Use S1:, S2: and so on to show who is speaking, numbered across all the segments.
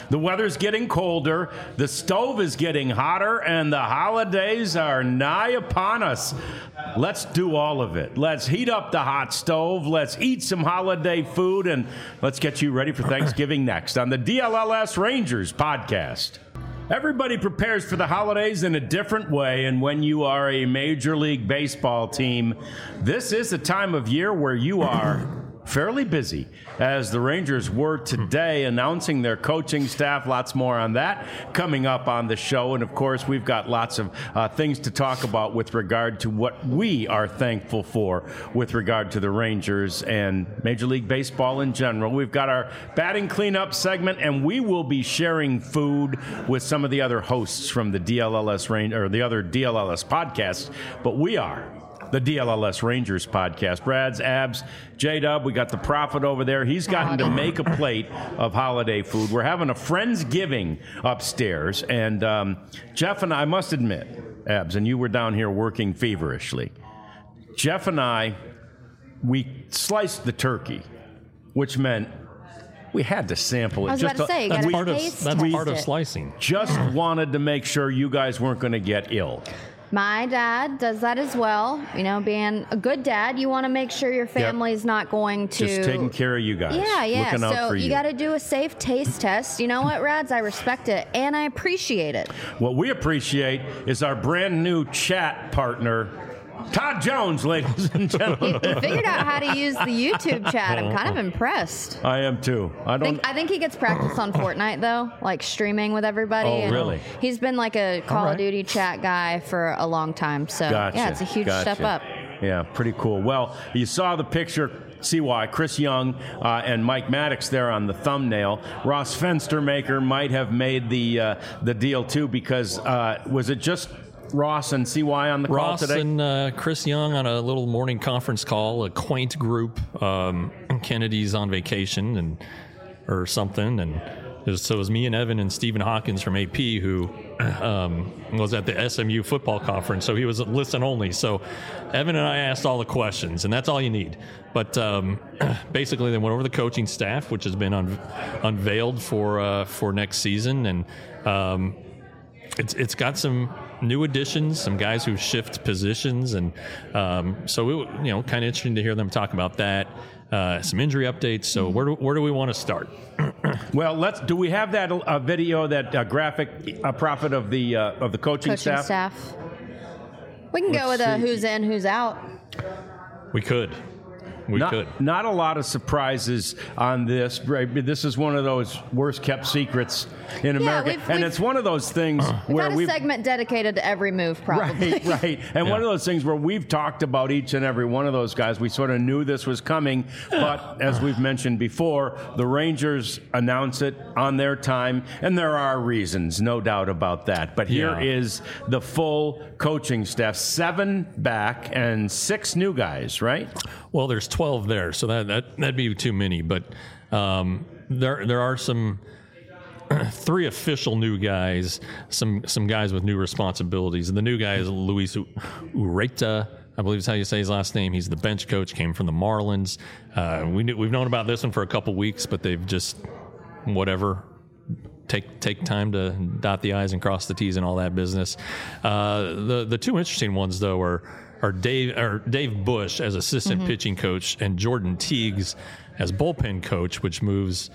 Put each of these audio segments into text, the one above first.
S1: The weather's getting colder, the stove is getting hotter, and the holidays are nigh upon us. Let's do all of it. Let's heat up the hot stove, let's eat some holiday food, and let's get you ready for Thanksgiving next on the DLLS Rangers podcast. Everybody prepares for the holidays in a different way, and when you are a Major League Baseball team, this is a time of year where you are fairly busy, as the Rangers were today announcing their coaching staff. Lots more on that coming up on the show. And, of course, we've got lots of things to talk about with regard to what we are thankful for with regard to the Rangers and Major League Baseball in general. We've got our batting cleanup segment, and we will be sharing food with some of the other hosts from the DLLS or the other DLLS podcasts. But we are the DLLS Rangers podcast. Brad's, Abs, J-Dub, we got the Prophet over there. He's gotten to make a plate of holiday food. We're having a Friendsgiving upstairs. And Jeff and I must admit, Abs, and you were down here working feverishly. Jeff and I, we sliced the turkey, which meant we had to sample it.
S2: I was about to say, you got to taste test it.
S3: That's part of slicing.
S1: Just wanted to make sure you guys weren't going to get ill.
S2: My dad does that as well. You know, being a good dad, you want to make sure your family's not going to...
S1: Just taking care of you guys.
S2: Yeah.
S1: Looking out for
S2: you got to do a safe taste test. You know what, Rads? I respect it, and I appreciate it.
S1: What we appreciate is our brand new chat partner, Todd Jones, ladies and gentlemen.
S2: He figured out how to use the YouTube chat. I'm kind of impressed.
S1: I am too.
S2: I think he gets practice on Fortnite, though, like streaming with everybody.
S1: Oh, really?
S2: He's been like a Call of Duty chat guy for a long time. So, yeah, it's a huge step up.
S1: Yeah, pretty cool. Well, you saw the picture. CY, Chris Young, and Mike Maddox there on the thumbnail. Ross Fenstermaker might have made the deal, too, because was it just Ross and CY on the call today?
S3: Ross and Chris Young on a little morning conference call, a quaint group. Kennedy's on vacation or something, and so it was me and Evan and Stephen Hawkins from AP who was at the SMU football conference, so he was listen only. So Evan and I asked all the questions, and that's all you need. But basically, they went over the coaching staff, which has been unveiled for next season, and it's got some new additions, some guys who shift positions, and so it, kind of interesting to hear them talk about that. Some injury updates. So where do we want to start?
S1: Well, do we have that video, that graphic Prophet of the coaching staff?
S2: We can go with who's in, who's out.
S3: We could.
S1: Not a lot of surprises on this. This is one of those worst kept secrets in America, and it's one of those things where
S2: we've got a segment dedicated to every move, probably.
S1: Right. And one of those things where we've talked about each and every one of those guys. We sort of knew this was coming, but as we've mentioned before, the Rangers announce it on their time, and there are reasons, no doubt about that. But here is the full coaching staff: 7 back and 6 new guys, right?
S3: Well, there's 12 there, so that'd be too many. But there are some 3 official new guys, some guys with new responsibilities. And the new guy is Luis Ureta, I believe is how you say his last name. He's the bench coach, came from the Marlins. We've known about this one for a couple weeks, but they've just take time to dot the I's and cross the T's and all that business. The 2 interesting ones though are Dave Bush as assistant pitching coach and Jordan Teagues as bullpen coach, which moves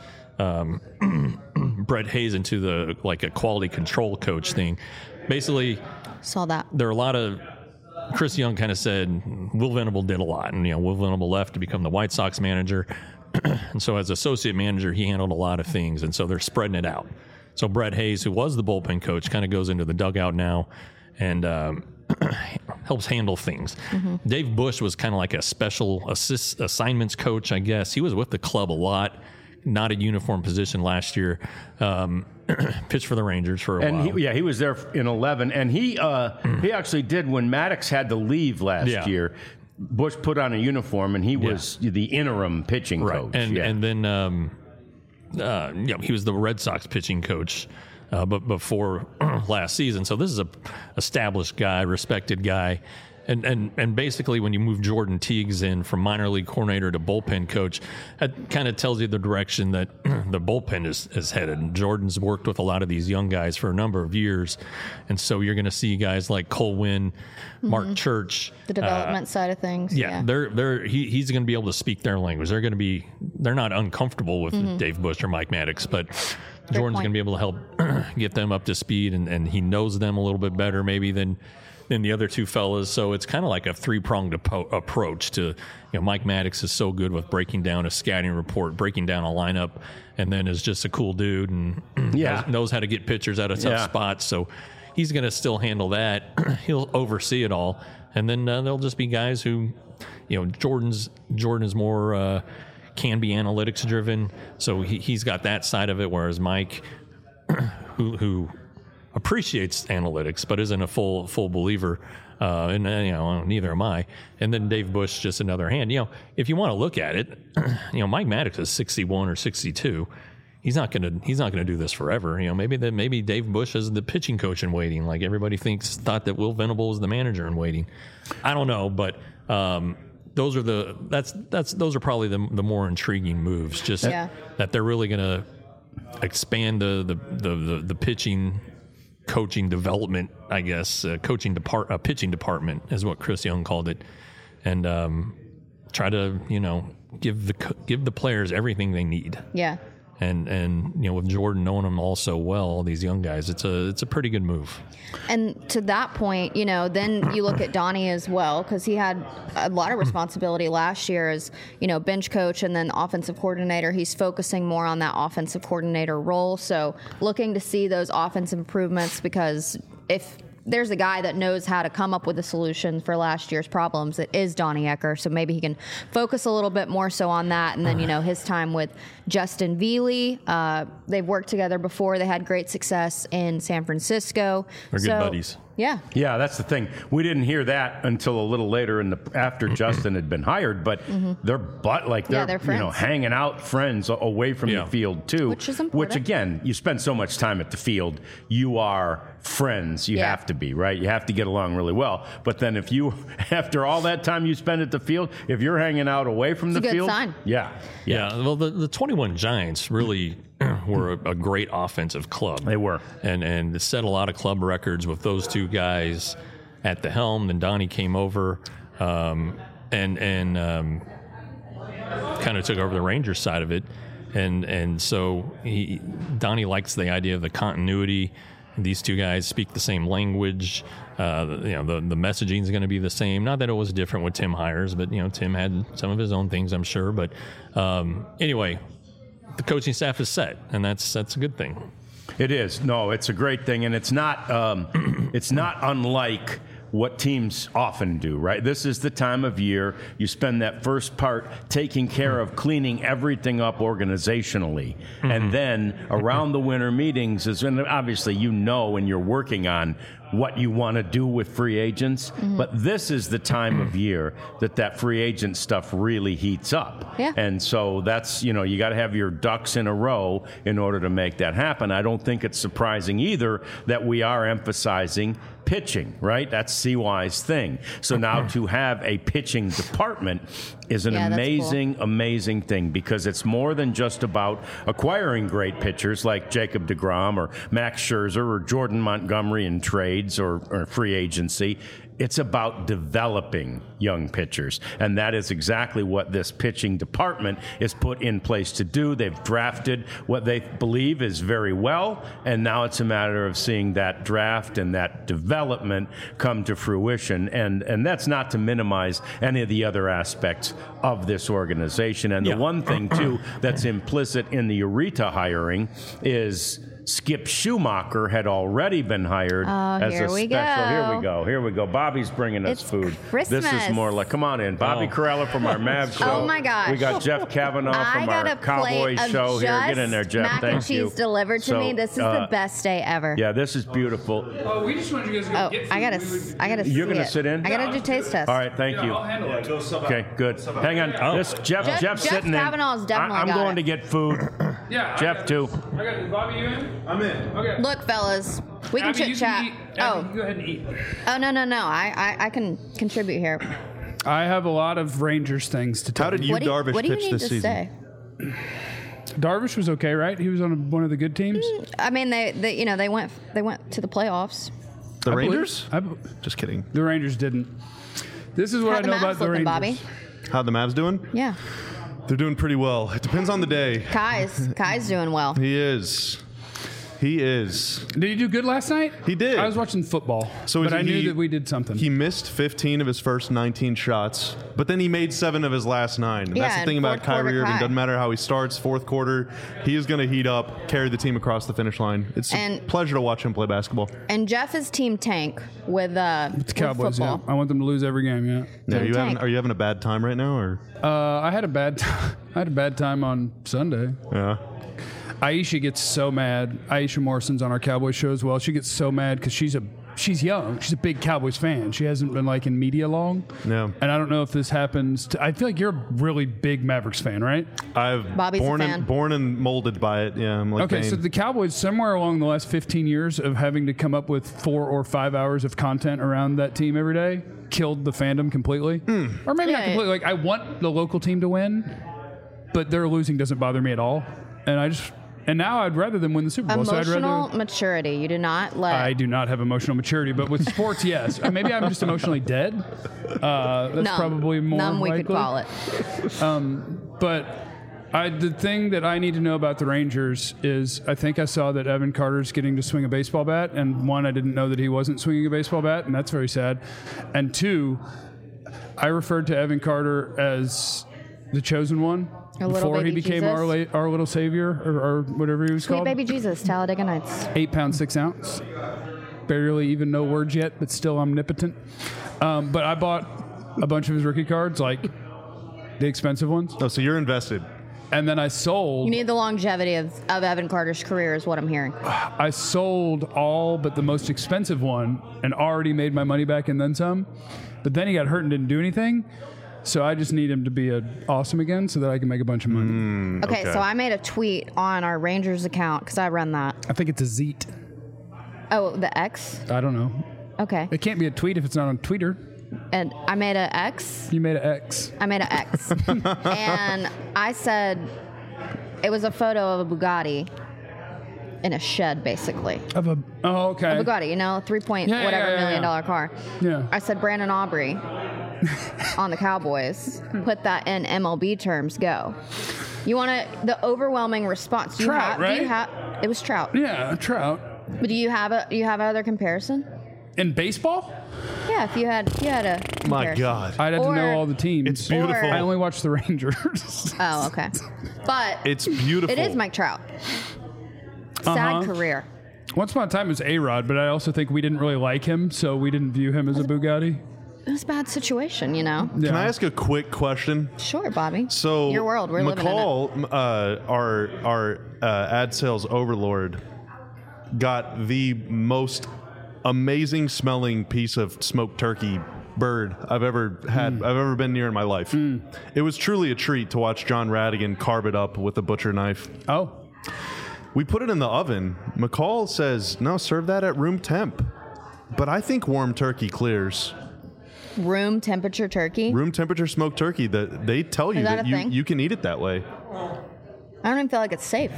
S3: Brett Hayes into a quality control coach thing. Basically,
S2: saw that
S3: there are a lot of. Chris Young kind of said Will Venable did a lot, and Will Venable left to become the White Sox manager, and so as associate manager he handled a lot of things, and so they're spreading it out. So Brett Hayes, who was the bullpen coach, kind of goes into the dugout now and helps handle things. Dave Bush was kind of like a special assignments coach, I guess. He was with the club a lot, not a uniform position last year. Pitched for the Rangers for a while.
S1: He was there in 11, and he actually did when Maddox had to leave last year. Bush put on a uniform, and he was the interim pitching coach.
S3: And then he was the Red Sox pitching coach but before last season. So this is a established guy, respected guy. And basically, when you move Jordan Teagues in from minor league coordinator to bullpen coach, that kind of tells you the direction that the bullpen is headed. And Jordan's worked with a lot of these young guys for a number of years, and so you're going to see guys like Cole Winn, Mark Church,
S2: the development side of things.
S3: Yeah, he's going to be able to speak their language. They're not uncomfortable with Dave Bush or Mike Maddox, but Jordan's going to be able to help get them up to speed, and he knows them a little bit better maybe than the other two fellas. So it's kind of like a three-pronged approach to, Mike Maddox is so good with breaking down a scouting report, breaking down a lineup, and then is just a cool dude and knows how to get pitchers out of tough spots. So he's going to still handle that. He'll oversee it all. And then there'll just be guys who, Jordan is more can be analytics driven. So he's got that side of it, whereas Mike, who appreciates analytics but isn't a full believer, and neither am I. And then Dave Bush, just another hand. If you want to look at it, Mike Maddox is 61 or 62. He's not gonna do this forever. Maybe Dave Bush is the pitching coach in waiting, like everybody thought that Will Venable was the manager in waiting. I don't know, but those are probably the more intriguing moves. Just that they're really gonna expand the pitching coaching development, I guess, pitching department is what Chris Young called it, and try to give the players everything they need.
S2: Yeah.
S3: And with Jordan knowing them all so well, all these young guys, it's a pretty good move.
S2: And to that point, then you look at Donnie as well, because he had a lot of responsibility last year as bench coach and then offensive coordinator. He's focusing more on that offensive coordinator role. So looking to see those offensive improvements, because if there's a guy that knows how to come up with a solution for last year's problems, it is Donnie Ecker. So maybe he can focus a little bit more so on that. And then, his time with Justin Veely, they've worked together before. They had great success in San Francisco.
S3: They're good buddies.
S2: Yeah.
S1: Yeah, that's the thing. We didn't hear that until a little later after Justin had been hired, but they're friends. Hanging out friends away from the field too.
S2: Which is important.
S1: Which again, you spend so much time at the field, you are friends. You have to be, right? You have to get along really well. But then if you, after all that time you spend at the field, if you're hanging out away from the field,
S2: it's a good sign.
S1: Yeah.
S3: Well, the 21 Giants really were a great offensive club.
S1: They were.
S3: And set a lot of club records with those two guys at the helm. Then Donnie came over and kind of took over the Rangers side of it. And so Donnie likes the idea of the continuity. These two guys speak the same language. The messaging is going to be the same. Not that it was different with Tim Hires, but Tim had some of his own things, I'm sure. But anyway, the coaching staff is set, and that's a good thing.
S1: It is. No, it's a great thing, and it's not unlike what teams often do, right? This is the time of year you spend that first part taking care of cleaning everything up organizationally. And then around the winter meetings is when obviously when you're working on what you want to do with free agents, but this is the time of year that free agent stuff really heats up.
S2: Yeah.
S1: And so that's, you got to have your ducks in a row in order to make that happen. I don't think it's surprising either that we are emphasizing pitching, right? That's CY's thing. So now to have a pitching department is an amazing thing, because it's more than just about acquiring great pitchers like Jacob deGrom or Max Scherzer or Jordan Montgomery in trades or free agency. It's about developing young pitchers, and that is exactly what this pitching department is put in place to do. They've drafted what they believe is very well, and now it's a matter of seeing that draft and that development come to fruition, and that's not to minimize any of the other aspects of this organization. And the one thing, too, that's implicit in the Ureta hiring is Skip Schumacher had already been hired as a special. Here we go. Bobby's bringing us food.
S2: Christmas.
S1: This is more like, come on in. Bobby Corella from our Mavs show.
S2: Oh, my gosh.
S1: We got Jeff Kavanaugh from our Cowboys show here. Get in there, Jeff.
S2: Mac and cheese delivered to me. This is the best day ever.
S1: Yeah, this is beautiful.
S4: Oh, we just wanted you guys to go get food.
S2: I gotta
S1: You're going to sit in?
S2: I gotta do taste test.
S1: All right, thank you.
S4: I'll handle it.
S1: Okay, good. Hang on. This Jeff's sitting in.
S2: Kavanaugh's definitely
S1: I'm
S2: got
S1: going
S2: it.
S1: to get food.
S4: Yeah.
S1: Jeff, too.
S4: I got it. Bobby, you in?
S5: I'm in.
S4: Okay.
S2: Look, fellas, We can
S4: Abby,
S2: chit
S4: you
S2: chat.
S4: eat. Abby, go ahead and eat.
S2: Oh no. I can contribute here.
S5: I have a lot of Rangers things to tell
S6: How did you,
S2: What do you
S6: Darvish,
S2: need
S6: pitch this
S2: to
S6: season?
S2: say?
S5: Darvish was okay, right? He was on one of the good teams.
S2: I mean, they went to the playoffs.
S6: The Rangers?
S5: I believe-
S6: Just kidding.
S5: The Rangers didn't. This is what
S2: How
S5: I
S2: the
S5: know
S2: Mavs
S5: about the
S2: looking,
S5: Rangers.
S2: Bobby?
S6: How the Mavs doing?
S2: Yeah,
S6: They're doing pretty well. It depends on the day.
S2: Kai's doing well.
S6: He is. He is.
S5: Did he do good last night?
S6: He did.
S5: I was watching football,
S6: So
S5: but I knew
S6: he-
S5: that we did something.
S6: He missed 15 of his first 19 shots, but then he made 7 of his last 9. And
S2: Yeah,
S6: that's the
S2: and
S6: thing about
S2: fourth quarter
S6: Kyrie Irving.
S2: Kai.
S6: Doesn't matter how he starts, fourth quarter, he is going to heat up, carry the team across the finish line. It's a
S2: And-
S6: pleasure to watch him play basketball.
S2: And Jeff is team tank with
S5: the Cowboys, yeah.
S2: football.
S5: I want them to lose every game, yeah.
S6: Yeah,
S2: Team tank.
S6: are you having a bad time right now, or?
S5: I had a bad time on Sunday.
S6: Yeah.
S5: Aisha gets so mad. Aisha Morrison's on our Cowboys show as well. She gets so mad because she's young. She's a big Cowboys fan. She hasn't been in media long.
S6: No.
S5: And I don't know if this happens. I feel like you're a really big Mavericks fan, right?
S2: Bobby's a fan.
S6: born and molded by it. Yeah, I'm like
S5: Okay,
S6: Bane.
S5: so the Cowboys, somewhere along the last 15 years of having to come up with 4 or 5 hours of content around that team every day, killed the fandom completely. Or maybe not
S2: Yeah.
S5: completely. I want the local team to win, but their losing doesn't bother me at all. And now I'd rather them win the Super Bowl. So I'd
S2: Emotional
S5: rather.
S2: maturity. You do not let.
S5: I do not have emotional maturity, but with sports, yes. Maybe I'm just emotionally dead. That's
S2: numb.
S5: probably more
S2: numb. We
S5: likely.
S2: could call it.
S5: But the thing that I need to know about the Rangers is I think I saw that Evan Carter's getting to swing a baseball bat, and 1, I didn't know that he wasn't swinging a baseball bat, and that's very sad. And 2, I referred to Evan Carter as the chosen one
S2: A little
S5: before he
S2: baby
S5: became
S2: Jesus.
S5: our little savior or whatever he was
S2: Sweet
S5: called.
S2: baby Jesus, Talladega Nights.
S5: 8 pounds 6 ounce. Barely even know words yet, but still omnipotent. But I bought a bunch of his rookie cards, like the expensive ones,
S6: Oh, so you're invested.
S5: and then I sold.
S2: You need the longevity of Evan Carter's career, is what I'm hearing.
S5: I sold all but the most expensive one and already made my money back and then some. But then he got hurt and didn't do anything. So I just need him to be awesome again so that I can make a bunch of money.
S2: Okay,
S6: Okay.
S2: so I made a tweet on our Rangers account because I run that.
S5: I think it's a Zeet.
S2: Oh, the X?
S5: I don't know.
S2: Okay.
S5: It can't be a tweet if it's not on Twitter.
S2: And I made a X.
S5: You made an X.
S2: I made an X. And I said it was a photo of a Bugatti in a shed, basically.
S5: Okay.
S2: A Bugatti, you know, 3 point
S5: Yeah,
S2: whatever
S5: yeah.
S2: million dollar car.
S5: Yeah.
S2: I said Brandon Aubrey on the Cowboys. Put that in MLB terms. Go. You want the overwhelming response? Do
S5: Trout,
S2: Do you
S5: right?
S2: have? It was Trout.
S5: Yeah, Trout.
S2: But do you have other comparison?
S5: In baseball?
S2: Yeah, if you had a comparison.
S6: My God.
S5: I'd have to
S2: Or-
S5: know all the teams.
S6: It's beautiful.
S2: Or-
S5: I only watch the Rangers.
S2: Oh, okay. But
S6: It's beautiful.
S2: it is Mike Trout. Sad career.
S5: Once upon a time it was A-Rod, but I also think we didn't really like him, so we didn't view him as a Bugatti.
S2: It was a bad situation, you know.
S6: Can I ask a quick question?
S2: Sure, Bobby.
S6: So
S2: your world, we're living in it.
S6: McCall, our ad sales overlord, got the most amazing smelling piece of smoked turkey bird I've ever had. I've ever been near in my life. It was truly a treat to watch John Radigan carve it up with a butcher knife.
S5: Oh.
S6: We put it in the oven. McCall says, no, serve that at room temp. But I think warm turkey clears.
S2: Room temperature turkey.
S6: Room temperature smoked turkey, that they tell you
S2: Is that
S6: that
S2: a thing?
S6: you can eat it that way.
S2: I don't even feel like it's safe.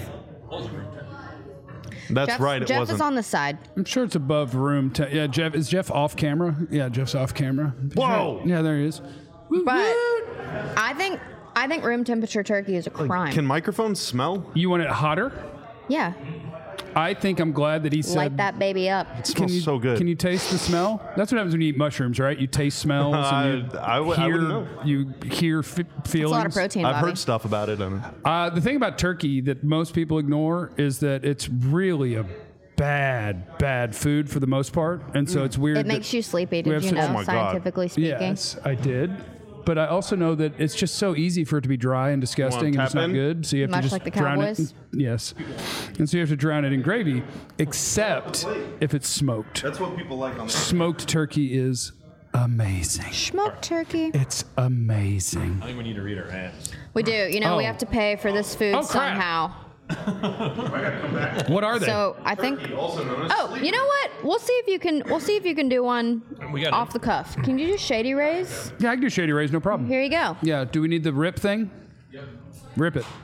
S6: That's right, it
S2: Jeff
S6: wasn't.
S2: is on the side.
S5: I'm sure it's above room. Yeah, Jeff. Is Jeff off camera? Yeah, Jeff's off camera.
S6: Whoa.
S5: Yeah, there he is.
S2: But I think room temperature turkey is a crime.
S6: Can microphones smell?
S5: You want it hotter?
S2: Yeah.
S5: I think I'm glad that he said.
S2: Light that baby up.
S6: It smells so good.
S5: Can you taste the smell? That's what happens when you eat mushrooms, right? You taste smells. And
S6: I wouldn't know.
S5: You hear feelings.
S2: It's a lot of protein,
S6: I've
S2: Bobby.
S6: heard stuff about it.
S5: The thing about turkey that most people ignore is that it's really a bad food for the most part, and so it's weird.
S2: It makes you sleepy.
S5: we
S2: Did
S5: have
S2: you
S5: such-
S2: know,
S6: Oh my God.
S2: scientifically speaking?
S5: Yes, I did. But I also know that it's just so easy for it to be dry and disgusting, and
S6: tap
S5: it's not
S6: in?
S5: good. So you have
S2: Much
S5: to just
S2: like the
S5: drown
S2: Cowboys?
S5: it. Yes, and so you have to drown it in gravy, except if it's smoked.
S6: That's what people like on the
S5: Smoked turkey is amazing.
S2: Smoked turkey.
S5: It's amazing.
S3: I think we need to read our ads.
S2: We do. You know, we
S5: Oh.
S2: have to pay for this food
S5: Oh, crap.
S2: somehow.
S5: What are they?
S2: So I think. Oh, you know what? We'll see if you can do one
S3: got
S2: off
S3: it.
S2: the cuff. Can you do Shady Rays?
S5: Yeah, I can do Shady Rays, no problem.
S2: Here you go.
S5: Yeah, do we need the rip thing? Yep. Rip it.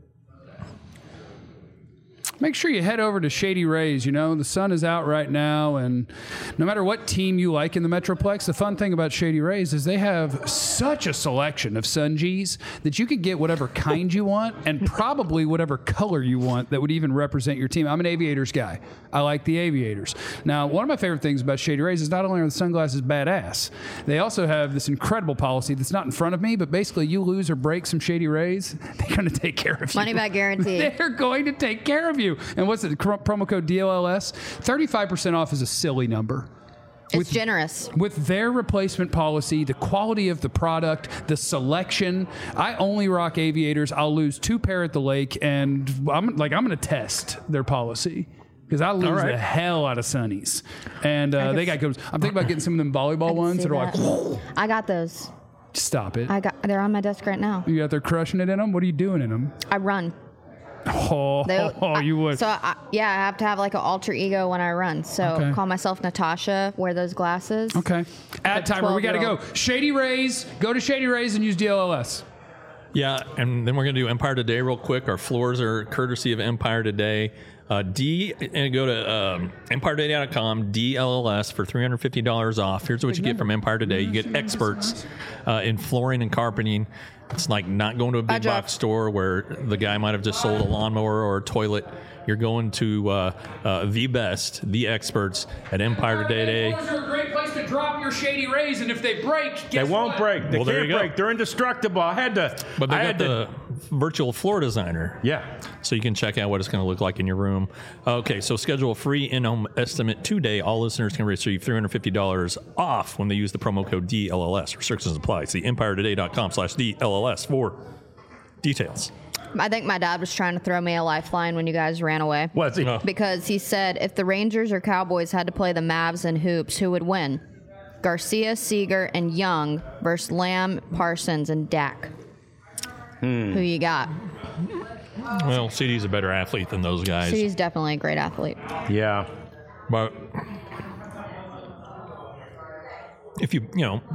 S5: Make sure you head over to Shady Rays. You know, the sun is out right now, and no matter what team you like in the Metroplex, the fun thing about Shady Rays is they have such a selection of Sungees that you can get whatever kind you want and probably whatever color you want that would even represent your team. I'm an Aviators guy. I like the Aviators. Now, one of my favorite things about Shady Rays is not only are the sunglasses badass, they also have this incredible policy that's not in front of me, but basically you lose or break some Shady Rays, they're going to take care of you.
S2: Money back guarantee.
S5: They're going to take care of you. And what's it? Promo code DLLS. 35% off is a silly number.
S2: It's generous.
S5: With their replacement policy, the quality of the product, the selection, I only rock Aviators. I'll lose 2 pair at the lake, and I'm going to test their policy. Because I lose the hell out of Sunnies. And they got good. I'm thinking about getting some of them volleyball ones that are like,
S2: I got those.
S5: Stop it.
S2: They're on my desk right now.
S5: You out there crushing it in them? What are you doing in them?
S2: I run.
S5: You would.
S2: So, I have to have like an alter ego when I run. So, call myself Natasha, wear those glasses.
S5: Okay. Ad timer. We got to go. Shady Rays. Go to Shady Rays and use DLLS.
S3: Yeah, and then we're going to do Empire Today real quick. Our floors are courtesy of Empire Today. And go to EmpireToday.com, DLLS for $350 off. Here's what you get from Empire Today. You get experts in flooring and carpeting. It's like not going to a big box store where the guy might have just sold a lawnmower or a toilet. You're going to the best, the experts at Empire Today.
S5: Floors are a great place to drop your Shady Rays, and if they break,
S1: They won't break. They
S3: Well, there
S1: can't
S3: you go.
S1: break. They're indestructible.
S3: But they got the virtual floor designer.
S1: Yeah.
S3: So you can check out what it's going to look like in your room. Okay, so schedule a free in-home estimate today. All listeners can receive $350 off when they use the promo code DLLS. Restrictions apply. See EmpireToday.com/DLLS for details.
S2: I think my dad was trying to throw me a lifeline when you guys ran away.
S1: What's he?
S2: Because he said if the Rangers or Cowboys had to play the Mavs in hoops, who would win? Garcia, Seager, and Young versus Lamb, Parsons, and Dak. Who you got?
S3: Well, CD's a better athlete than those guys.
S2: She's definitely a great athlete.
S1: Yeah.
S3: But if you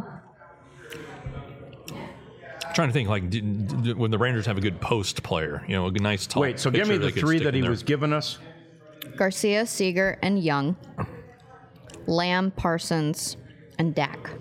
S3: trying to think, like, when the Rangers have a good post player, a nice tall.
S1: Wait, so give me the 3 that he was giving us.
S2: Garcia, Seager, and Young. Lamb, Parsons, and Dak.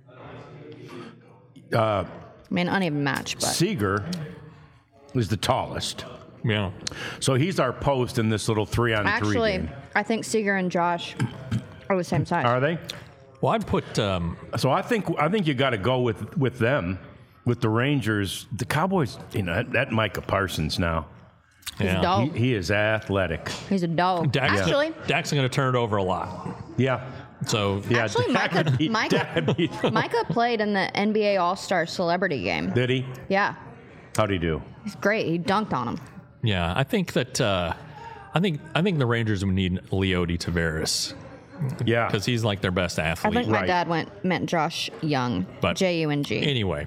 S2: I mean, uneven match, but
S1: Seager is the tallest.
S3: Yeah.
S1: So he's our post in this little 3-on-3
S2: actually,
S1: game.
S2: I think Seager and Josh are the same size.
S1: Are they?
S3: Well, I'd put.
S1: So I think you got to go with them, with the Rangers. The Cowboys, that Micah Parsons now.
S2: He's a dog.
S1: He is athletic.
S2: He's a dog.
S3: Dak's
S2: Actually,
S3: going to turn it over a lot.
S1: Yeah.
S3: So
S1: Yeah.
S2: Actually, Micah played in the NBA All-Star Celebrity Game.
S1: Did he?
S2: Yeah,
S1: How'd he do?
S2: he's great. He dunked on him.
S3: yeah, I think that I think the Rangers would need Leody Tavares
S1: Yeah.
S3: because he's like their best
S2: I
S3: athlete.
S2: think my
S1: Right.
S2: dad meant Josh Young,
S3: But-
S2: Jung.
S3: Anyway,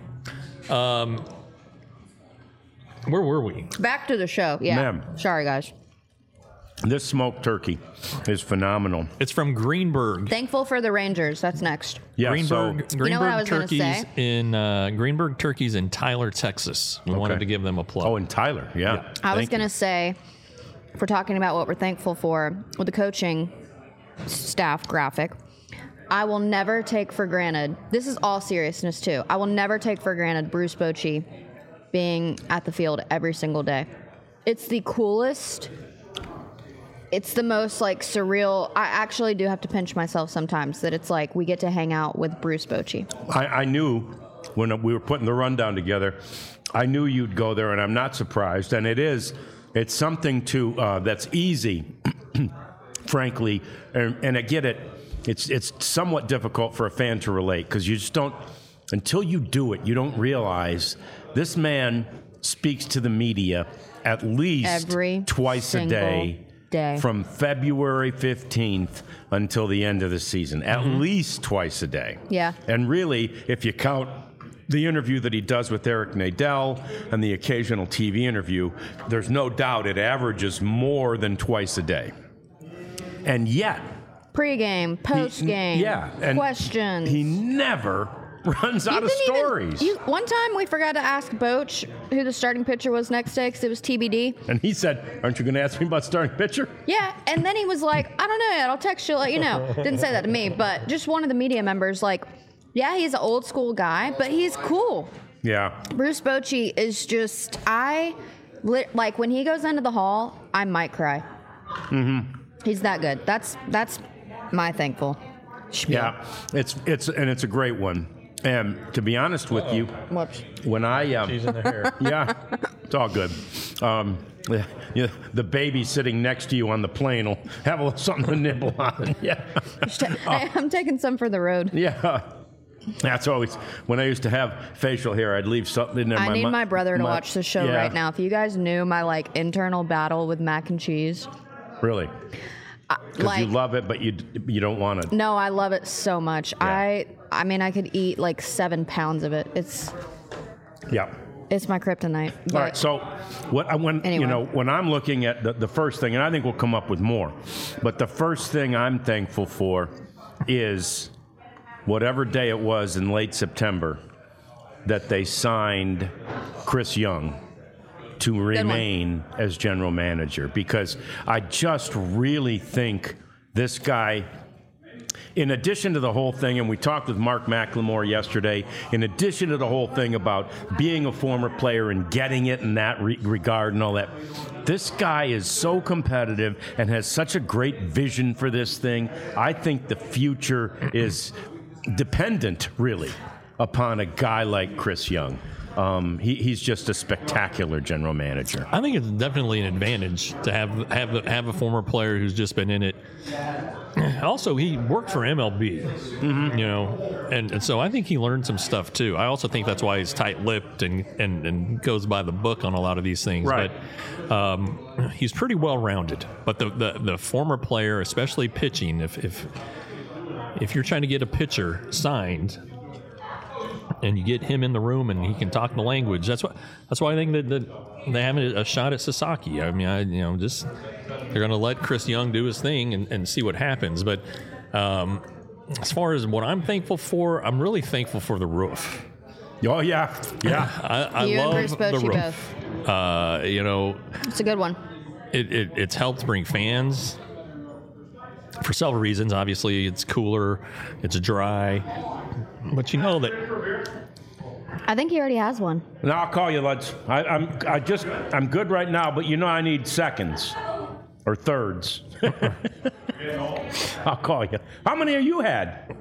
S3: where were we?
S2: Back to the show. Yeah.
S1: Ma'am.
S2: Sorry, guys.
S1: This smoked turkey is phenomenal.
S3: It's from Greenberg.
S2: Thankful for the Rangers. That's next.
S1: Yeah.
S3: Greenberg,
S1: So,
S2: You know what I was gonna
S3: Turkeys
S2: say?
S3: in Greenberg Turkeys in Tyler, Texas. We wanted to give them a plug.
S1: and Tyler. Yeah.
S2: I was
S1: Thank
S2: going
S1: you.
S2: to say, if we're talking about what we're thankful for with the coaching staff graphic, I will never take for granted, this is all seriousness too, I will never take for granted Bruce Bochy being at the field every single day. It's the coolest. It's the most surreal. I actually do have to pinch myself sometimes that it's like we get to hang out with Bruce Bochy.
S1: I knew when we were putting the rundown together, I knew you'd go there, and I'm not surprised. And it's something that's easy, frankly, and I get it. It's somewhat difficult for a fan to relate because you just don't, until you do it, you don't realize this man speaks to the media at least
S2: Every
S1: twice a day.
S2: day.
S1: From February 15th until the end of the season, at least twice a day.
S2: Yeah.
S1: And really, if you count the interview that he does with Eric Nadel and the occasional TV interview, there's no doubt it averages more than twice a day. And yet,
S2: Pre-game, post-game,
S1: and
S2: questions.
S1: He never runs out of stories.
S2: One time we forgot to ask Boach who the starting pitcher was next day because it was TBD.
S1: And he said, aren't you going to ask me about starting pitcher?
S2: Yeah, and then he was like, I don't know yet. I'll text you, let you know. Didn't say that to me, but just one of the media members, like, yeah, he's an old school guy, but he's cool.
S1: Yeah.
S2: Bruce Bochy is just, like, when he goes into the hall, I might cry. Mm-hmm. He's that good. That's my thankful spiel.
S1: Yeah, it's a great one. And to be honest with you,
S2: Whoops.
S1: when I
S3: She's in the hair.
S1: yeah, it's all good. The baby sitting next to you on the plane will have a little something to nibble on. Yeah,
S2: I'm taking some for the road.
S1: yeah. That's always when I used to have facial hair. I'd leave something in there.
S2: I need my brother to watch the show
S1: yeah.
S2: right now. If you guys knew my like internal battle with mac and cheese.
S1: Really? Because you love it, but you don't want it.
S2: No, I love it so much.
S1: Yeah.
S2: I mean, I could eat like 7 pounds of it. It's my kryptonite.
S1: All right. So, when I'm looking at the first thing, and I think we'll come up with more, but the first thing I'm thankful for is whatever day it was in late September that they signed Chris Young to remain as general manager, because I just really think this guy, in addition to the whole thing, and we talked with Mark McLemore yesterday, in addition to the whole thing about being a former player and getting it in that regard and all that, this guy is so competitive and has such a great vision for this thing. I think the future is dependent, really, upon a guy like Chris Young. He's just a spectacular general manager.
S3: I think it's definitely an advantage to have a former player who's just been in it. Also, he worked for MLB, and so I think he learned some stuff too. I also think that's why he's tight-lipped and goes by the book on a lot of these things.
S1: Right.
S3: But he's pretty well-rounded. But the former player, especially pitching, if you're trying to get a pitcher signed, and you get him in the room and he can talk the language. That's why I think that they have a shot at Sasaki. I mean, they're going to let Chris Young do his thing and see what happens. But as far as what I'm thankful for, I'm really thankful for the roof.
S1: Oh yeah.
S3: I
S2: You
S3: love
S2: and Bruce
S3: the
S2: Bochy
S3: roof.
S2: It's a good one.
S3: It's helped bring fans for several reasons. Obviously, it's cooler, it's dry, but that.
S2: I think he already has one.
S1: No, I'll call you, Lutz. I'm good right now, but I need seconds or thirds. I'll call you. How many have you had?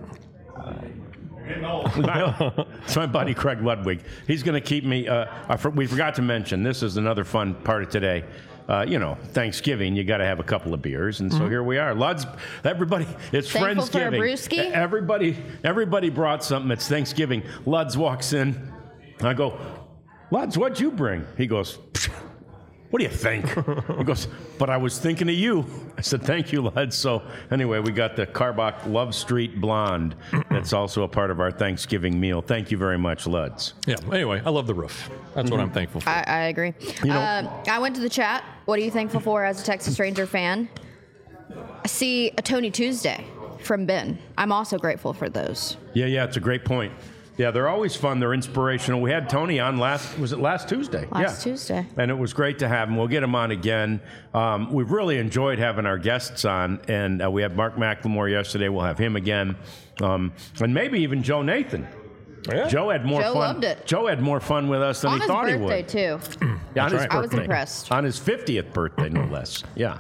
S1: It's my buddy Craig Ludwig. He's going to keep me. We forgot to mention, this is another fun part of today. Thanksgiving, you got to have a couple of beers, and so here we are. Ludz, everybody, it's
S2: Thankful for a
S1: Friendsgiving.
S2: brewski?
S1: Everybody brought something. It's Thanksgiving. Ludz walks in. I go, Ludz, what'd you bring? He goes, what do you think? He goes, but I was thinking of you. I said, thank you, Ludz. So anyway, we got the Karbach Love Street Blonde. That's also a part of our Thanksgiving meal. Thank you very much, Ludz.
S3: Yeah. Anyway, I love the roof. That's what I'm thankful for.
S2: I agree. I went to the chat. What are you thankful for as a Texas Ranger fan? I see a Tony Tuesday from Ben. I'm also grateful for those.
S1: Yeah, it's a great point. Yeah, they're always fun. They're inspirational. We had Tony on last Tuesday?
S2: Last Tuesday.
S1: And it was great to have him. We'll get him on again. We've really enjoyed having our guests on, and we had Mark McLemore yesterday. We'll have him again. And maybe even Joe Nathan.
S3: Yeah.
S1: Joe had more fun.
S2: Loved it.
S1: Joe had more fun with us than he thought he would.
S2: On his birthday, too.
S1: Yeah, on his
S3: right.
S1: birthday.
S2: I was impressed.
S1: On his 50th birthday, no less. Yeah.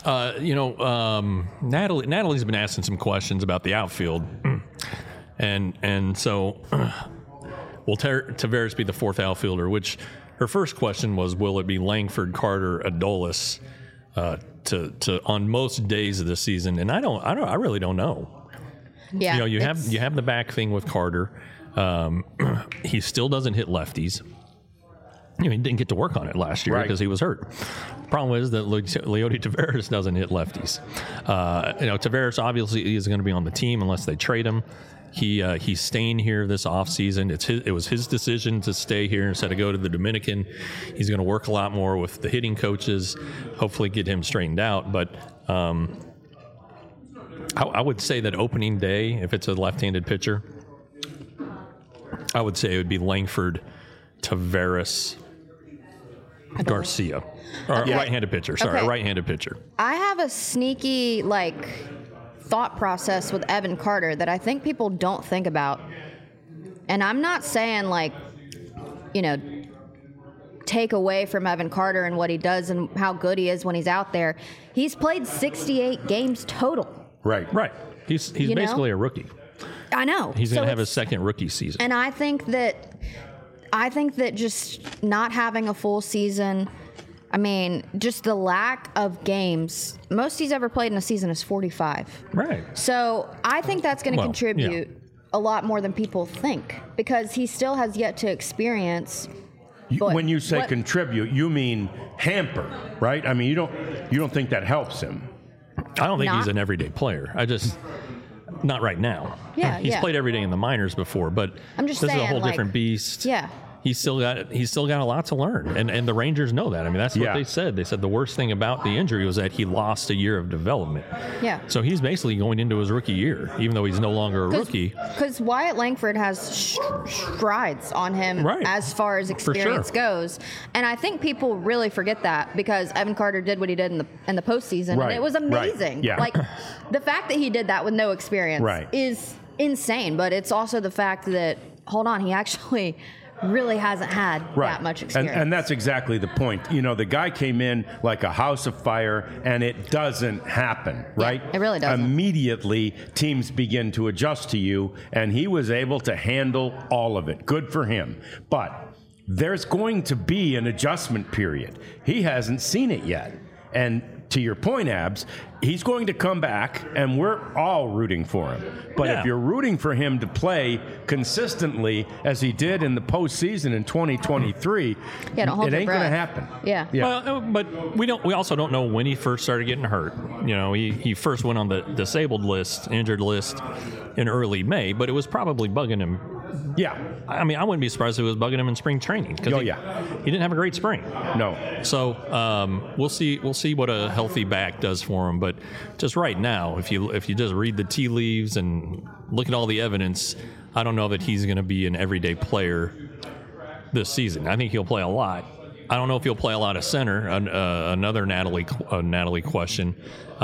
S3: Natalie's been asking some questions about the outfield. And so will Taveras be the fourth outfielder, which her first question was, will it be Langford, Carter, Adolis to on most days of the season? And I really don't know.
S2: Yeah.
S3: You have the back thing with Carter. He still doesn't hit lefties. He didn't get to work on it last year because he was hurt. Problem is that Leody Taveras doesn't hit lefties. Taveras obviously is going to be on the team unless they trade him. He's staying here this offseason. It was his decision to stay here instead of go to the Dominican. He's going to work a lot more with the hitting coaches, hopefully get him straightened out. But I would say that opening day, if it's a left-handed pitcher, I would say it would be Langford, Taveras, Garcia. Or right-handed pitcher. Sorry,
S2: Okay.
S3: right-handed pitcher.
S2: I have a sneaky, thought process with Evan Carter that I think people don't think about. And I'm not saying, take away from Evan Carter and what he does and how good he is when he's out there. He's played 68 games total.
S1: Right.
S3: He's basically a rookie.
S2: I know.
S3: He's going to have his
S2: it's-
S3: second rookie season.
S2: And I think that just not having a full season, just the lack of games. Most he's ever played in a season is 45.
S3: Right.
S2: So I think that's going to
S3: Well,
S2: contribute a lot more than people think because he still has yet to experience. But
S1: When you say
S2: what-
S1: contribute, you mean hamper, right? I mean, you don't think that helps him.
S3: I don't think he's
S2: Not-
S3: an everyday player. Not right now.
S2: Yeah,
S3: He's
S2: yeah.
S3: played every day in the minors before, but
S2: I'm just
S3: this is a
S2: saying,
S3: whole
S2: like-
S3: different beast.
S2: Yeah.
S3: He's still got a lot to learn, and the Rangers know that. I mean, that's what
S1: Yeah.
S3: they said. They said the worst thing about the injury was that he lost a year of development.
S2: Yeah.
S3: So he's basically going into his rookie year, even though he's no longer a rookie.
S2: Because Wyatt Langford has strides on him
S3: Right.
S2: as far as experience goes, and I think people really forget that because Evan Carter did what he did in the postseason,
S1: Right,
S2: and it was
S1: right,
S2: amazing.
S1: yeah.
S2: Like the fact that he did that with no experience
S1: Right.
S2: is insane, but it's also the fact that he actually really hasn't had that much experience.
S1: And that's exactly the point. The guy came in like a house of fire, and it doesn't happen, right?
S2: it really doesn't.
S1: Immediately, teams begin to adjust to you, and he was able to handle all of it. Good for him. But there's going to be an adjustment period. He hasn't seen it yet. And to your point, Abs, he's going to come back, and we're all rooting for him. But
S3: Yeah.
S1: if you're rooting for him to play consistently as he did in the postseason in 2023,
S2: Yeah, don't hold
S1: it
S2: your
S1: ain't going to
S2: breath.
S1: happen.
S2: Yeah.
S3: Well, but we also don't know when he first started getting hurt. He first went on the disabled list, injured list, in early May, but it was probably bugging him.
S1: Yeah.
S3: I mean, I wouldn't be surprised if it was bugging him in spring training because he didn't have a great spring.
S1: No.
S3: So we'll see what a healthy back does for him. But just right now, if you just read the tea leaves and look at all the evidence, I don't know that he's going to be an everyday player this season. I think he'll play a lot. I don't know if he'll play a lot of center. Another Natalie question,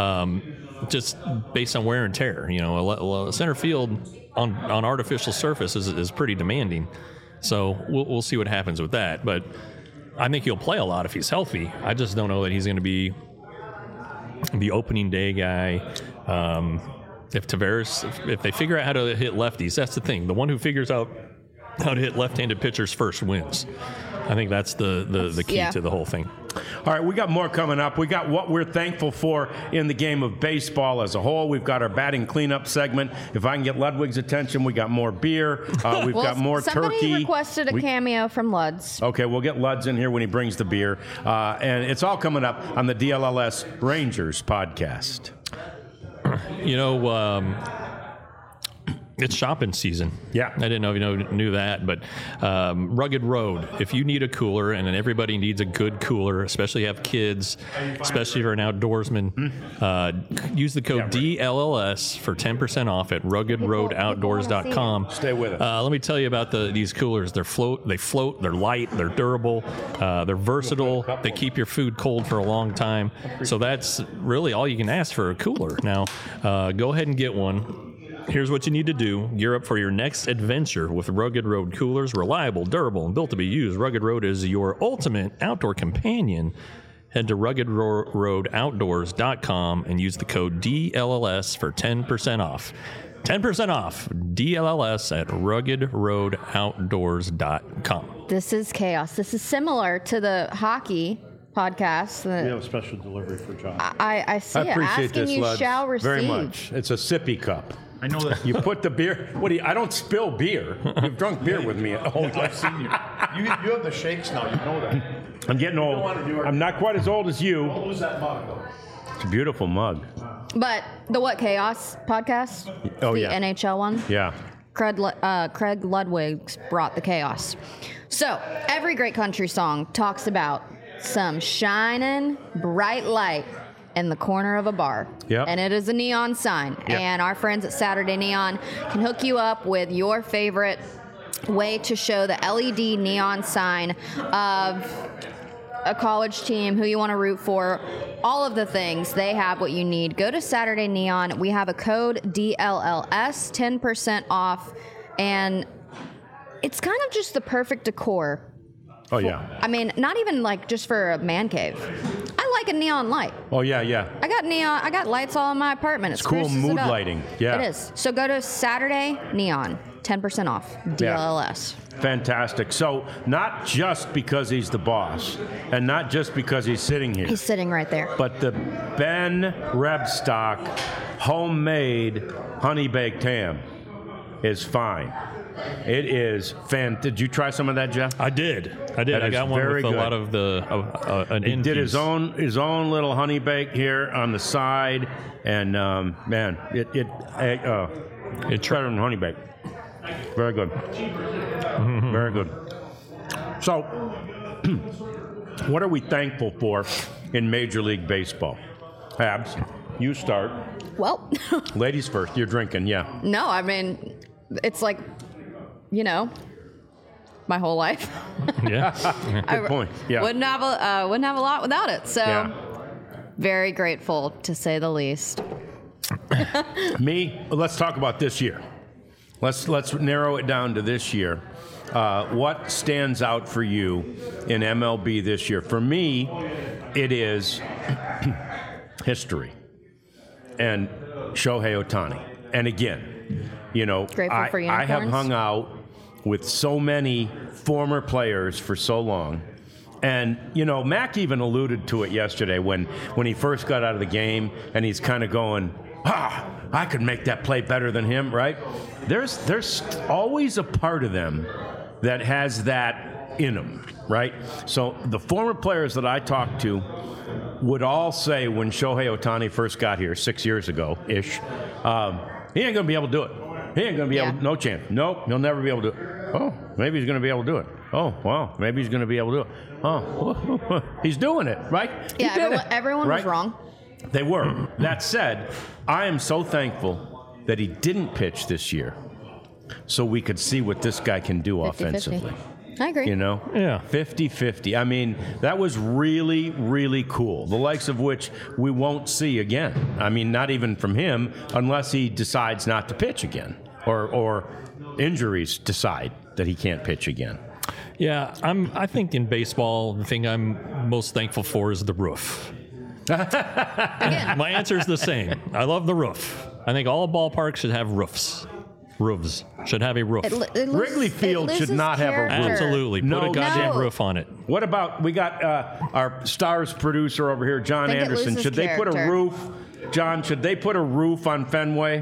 S3: just based on wear and tear. Center field on artificial surface is pretty demanding. So we'll see what happens with that. But I think he'll play a lot if he's healthy. I just don't know that he's going to be the opening day guy. If Taveras, if they figure out how to hit lefties, that's the thing. The one who figures out how to hit left-handed pitchers first wins. I think that's the key to the whole thing.
S1: All right, we got more coming up. We got what we're thankful for in the game of baseball as a whole. We've got our batting cleanup segment. If I can get Ludwig's attention, we got more beer. We've got more
S2: somebody
S1: turkey.
S2: requested a cameo from Luds.
S1: Okay, we'll get Luds in here when he brings the beer. And it's all coming up on the DLLS Rangers podcast.
S3: It's shopping season.
S1: Yeah.
S3: I didn't know if you knew that, but Rugged Road, if you need a cooler, and then everybody needs a good cooler, especially have kids, especially if you're an outdoorsman, use the code DLLS for 10% off at ruggedroadoutdoors.com.
S1: Stay with us.
S3: Let me tell you about these coolers. They float, they're light, they're durable, they're versatile, they keep your food cold for a long time. So that's really all you can ask for a cooler. Now, go ahead and get one. Here's what you need to do. Gear up for your next adventure with Rugged Road coolers. Reliable, durable, and built to be used. Rugged Road is your ultimate outdoor companion. Head to ruggedroadoutdoors.com and use the code DLLS for 10% off. 10% off. DLLS at ruggedroadoutdoors.com.
S2: This is chaos. This is similar to the hockey podcast.
S7: We have a special delivery for John.
S2: I see
S1: I
S2: it.
S1: appreciate
S2: Asking
S1: this,
S2: you
S1: Luds,
S2: shall receive.
S1: very much. It's a sippy cup.
S7: I know that.
S1: You put the beer. I don't spill beer. You've drunk beer with me.
S7: I've seen you. You have the shakes now. You know that.
S1: I'm getting old. I'm not quite as old as you.
S7: Don't lose that mug, though.
S1: It's a beautiful mug.
S2: But the What Chaos podcast?
S1: Oh,
S2: the
S1: yeah.
S2: NHL one?
S1: Yeah.
S2: Craig Ludwig brought the chaos. So every great country song talks about some shining bright light in the corner of a bar.
S1: Yep.
S2: And it is a neon sign.
S1: Yep.
S2: And our friends at Saturday Neon can hook you up with your favorite way to show the LED neon sign of a college team, who you want to root for, all of the things. They have what you need. Go to Saturday Neon. We have a code DLLS, 10% off, and it's kind of just the perfect decor.
S1: Oh, yeah.
S2: I mean, not even like just for a man cave. I like a neon light.
S1: Oh, yeah, yeah.
S2: I got lights all in my apartment. It
S1: Cool
S2: spruces
S1: mood
S2: it up.
S1: lighting. Yeah.
S2: It is. So go to Saturday Neon, 10% off, DLLS.
S1: Fantastic. So not just because he's the boss and not just because he's sitting here,
S2: He's sitting right there.
S1: but the Ben Rebstock homemade honey baked ham is fine. It is Did you try some of that, Jeff?
S3: I did.
S1: That
S3: I
S1: is
S3: got one
S1: very
S3: with
S1: good.
S3: a lot of the an
S1: He did his
S3: infuse.
S1: own little honey bake here on the side, and man, it's better than honey bake. Very good. Very good. So, what are we thankful for in Major League Baseball? Habs, you start.
S2: Well,
S1: Ladies first. You're drinking, yeah.
S2: no, I mean, it's like, my whole life.
S3: Yeah.
S1: Good point. Yeah.
S2: Wouldn't have a lot without it. So,
S1: Yeah.
S2: very grateful to say the least.
S1: Me, let's talk about this year. Let's narrow it down to this year. What stands out for you in MLB this year? For me, it is history and Shohei Ohtani. And again,
S2: Grateful for
S1: I have
S2: unicorns.
S1: hung out with so many former players for so long. And, Mac even alluded to it yesterday when he first got out of the game and he's kind of going, I could make that play better than him, right? There's always a part of them that has that in them, right? So the former players that I talked to would all say when Shohei Ohtani first got here 6 years ago-ish, he ain't going to be able to do it. He ain't going to be able to, no chance. Nope, he'll never be able to do it. Oh, maybe he's going to be able to do it. Oh, wow, maybe he's going to be able to do it. Oh, he's doing it, right? He
S2: Yeah,
S1: did
S2: everyone
S1: right?
S2: was wrong.
S1: They were. That said, I am so thankful that he didn't pitch this year so we could see what this guy can do
S2: 50-50.
S1: offensively.
S2: I agree.
S3: Yeah.
S1: 50-50. I mean, that was really, really cool. The likes of which we won't see again. I mean, not even from him unless he decides not to pitch again or injuries decide that he can't pitch again.
S3: Yeah, I think in baseball, the thing I'm most thankful for is the roof.
S2: Again,
S3: My answer is the same. I love the roof. I think all ballparks should have roofs. Roofs should have a roof.
S1: Wrigley Field should not have a roof.
S3: Absolutely. Put
S1: No.
S3: a goddamn
S2: No.
S3: roof on it.
S1: What about, we got our Stars producer over here, John
S2: Think it
S1: Anderson.
S2: loses
S1: Should they put a
S2: character.
S1: roof, John, should they put a roof on Fenway?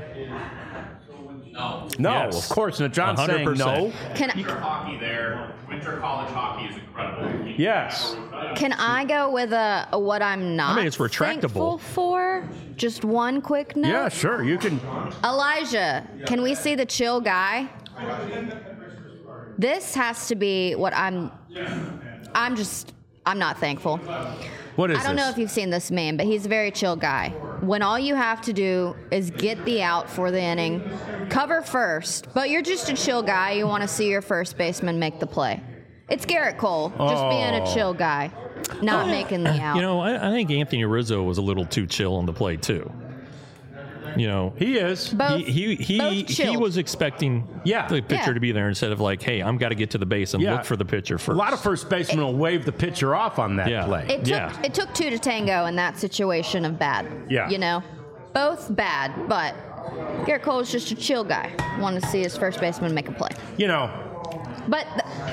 S1: No,
S3: Yes.
S1: of course not. John's saying
S3: 100%.
S1: no.
S2: can
S8: Hockey there. Winter college hockey is incredible.
S1: Yes.
S2: I go with what I'm not
S3: it's retractable.
S2: thankful for? Just one quick note.
S1: Yeah, sure. You can.
S2: Elijah, can we see the chill guy? This has to be what I'm not thankful.
S1: What is
S2: I don't
S1: this?
S2: know if you've seen this meme, but he's a very chill guy. When all you have to do is get the out for the inning, cover first, but you're just a chill guy. You want to see your first baseman make the play. It's Garrett Cole, just being a chill guy, not making the out.
S3: I think Anthony Rizzo was a little too chill on the play too.
S1: He is.
S2: both,
S3: He
S2: both chilled.
S3: was expecting
S1: Yeah.
S3: the pitcher
S2: Yeah.
S3: to be there instead of like, hey, I'm got to get to the base and
S1: Yeah.
S3: look for the pitcher
S1: A
S3: first.
S1: lot of first basemen will wave the pitcher off on that
S3: Yeah.
S1: play.
S2: It took two to tango in that situation of bad.
S1: Yeah.
S2: Both bad, but Garrett Cole is just a chill guy. Want to see his first baseman make a play. But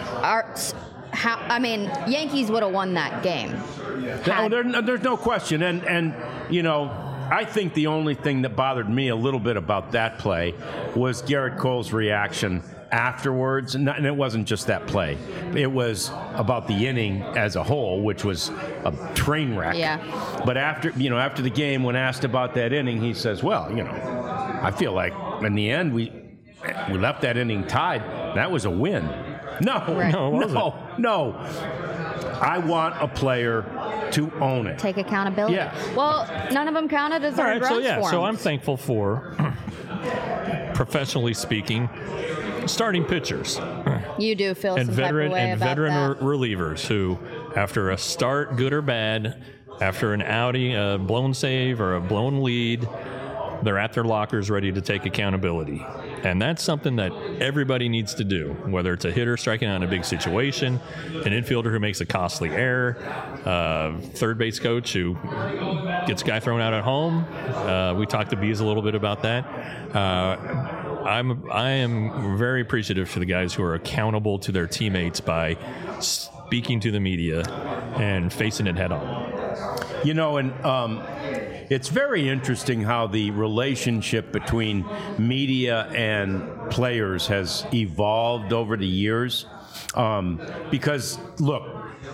S2: Yankees would have won that game.
S1: There's no question. And I think the only thing that bothered me a little bit about that play was Garrett Cole's reaction afterwards. And it wasn't just that play. It was about the inning as a whole, which was a train wreck.
S2: Yeah.
S1: But after the game, when asked about that inning, he says, well, I feel like in the end we left that inning tied. That was a win. No,
S2: Right.
S3: No, it wasn't.
S1: no. I want a player to own it.
S2: Take accountability.
S1: Yeah.
S2: Well, none of them counted as
S3: All
S2: earned
S3: right, so
S2: runs for
S3: so
S2: him.
S3: I'm thankful for, professionally speaking, starting pitchers
S2: You do feel
S3: and
S2: some type of
S3: veteran
S2: way about that.
S3: relievers who, after a start, good or bad, after an outing, a blown save or a blown lead, they're at their lockers ready to take accountability. And that's something that everybody needs to do, whether it's a hitter striking out in a big situation, an infielder who makes a costly error, third base coach who gets a guy thrown out at home. We talked to Bees a little bit about that. I am very appreciative for the guys who are accountable to their teammates by speaking to the media and facing it head on.
S1: You know, and it's very interesting how the relationship between media and players has evolved over the years. Because, look,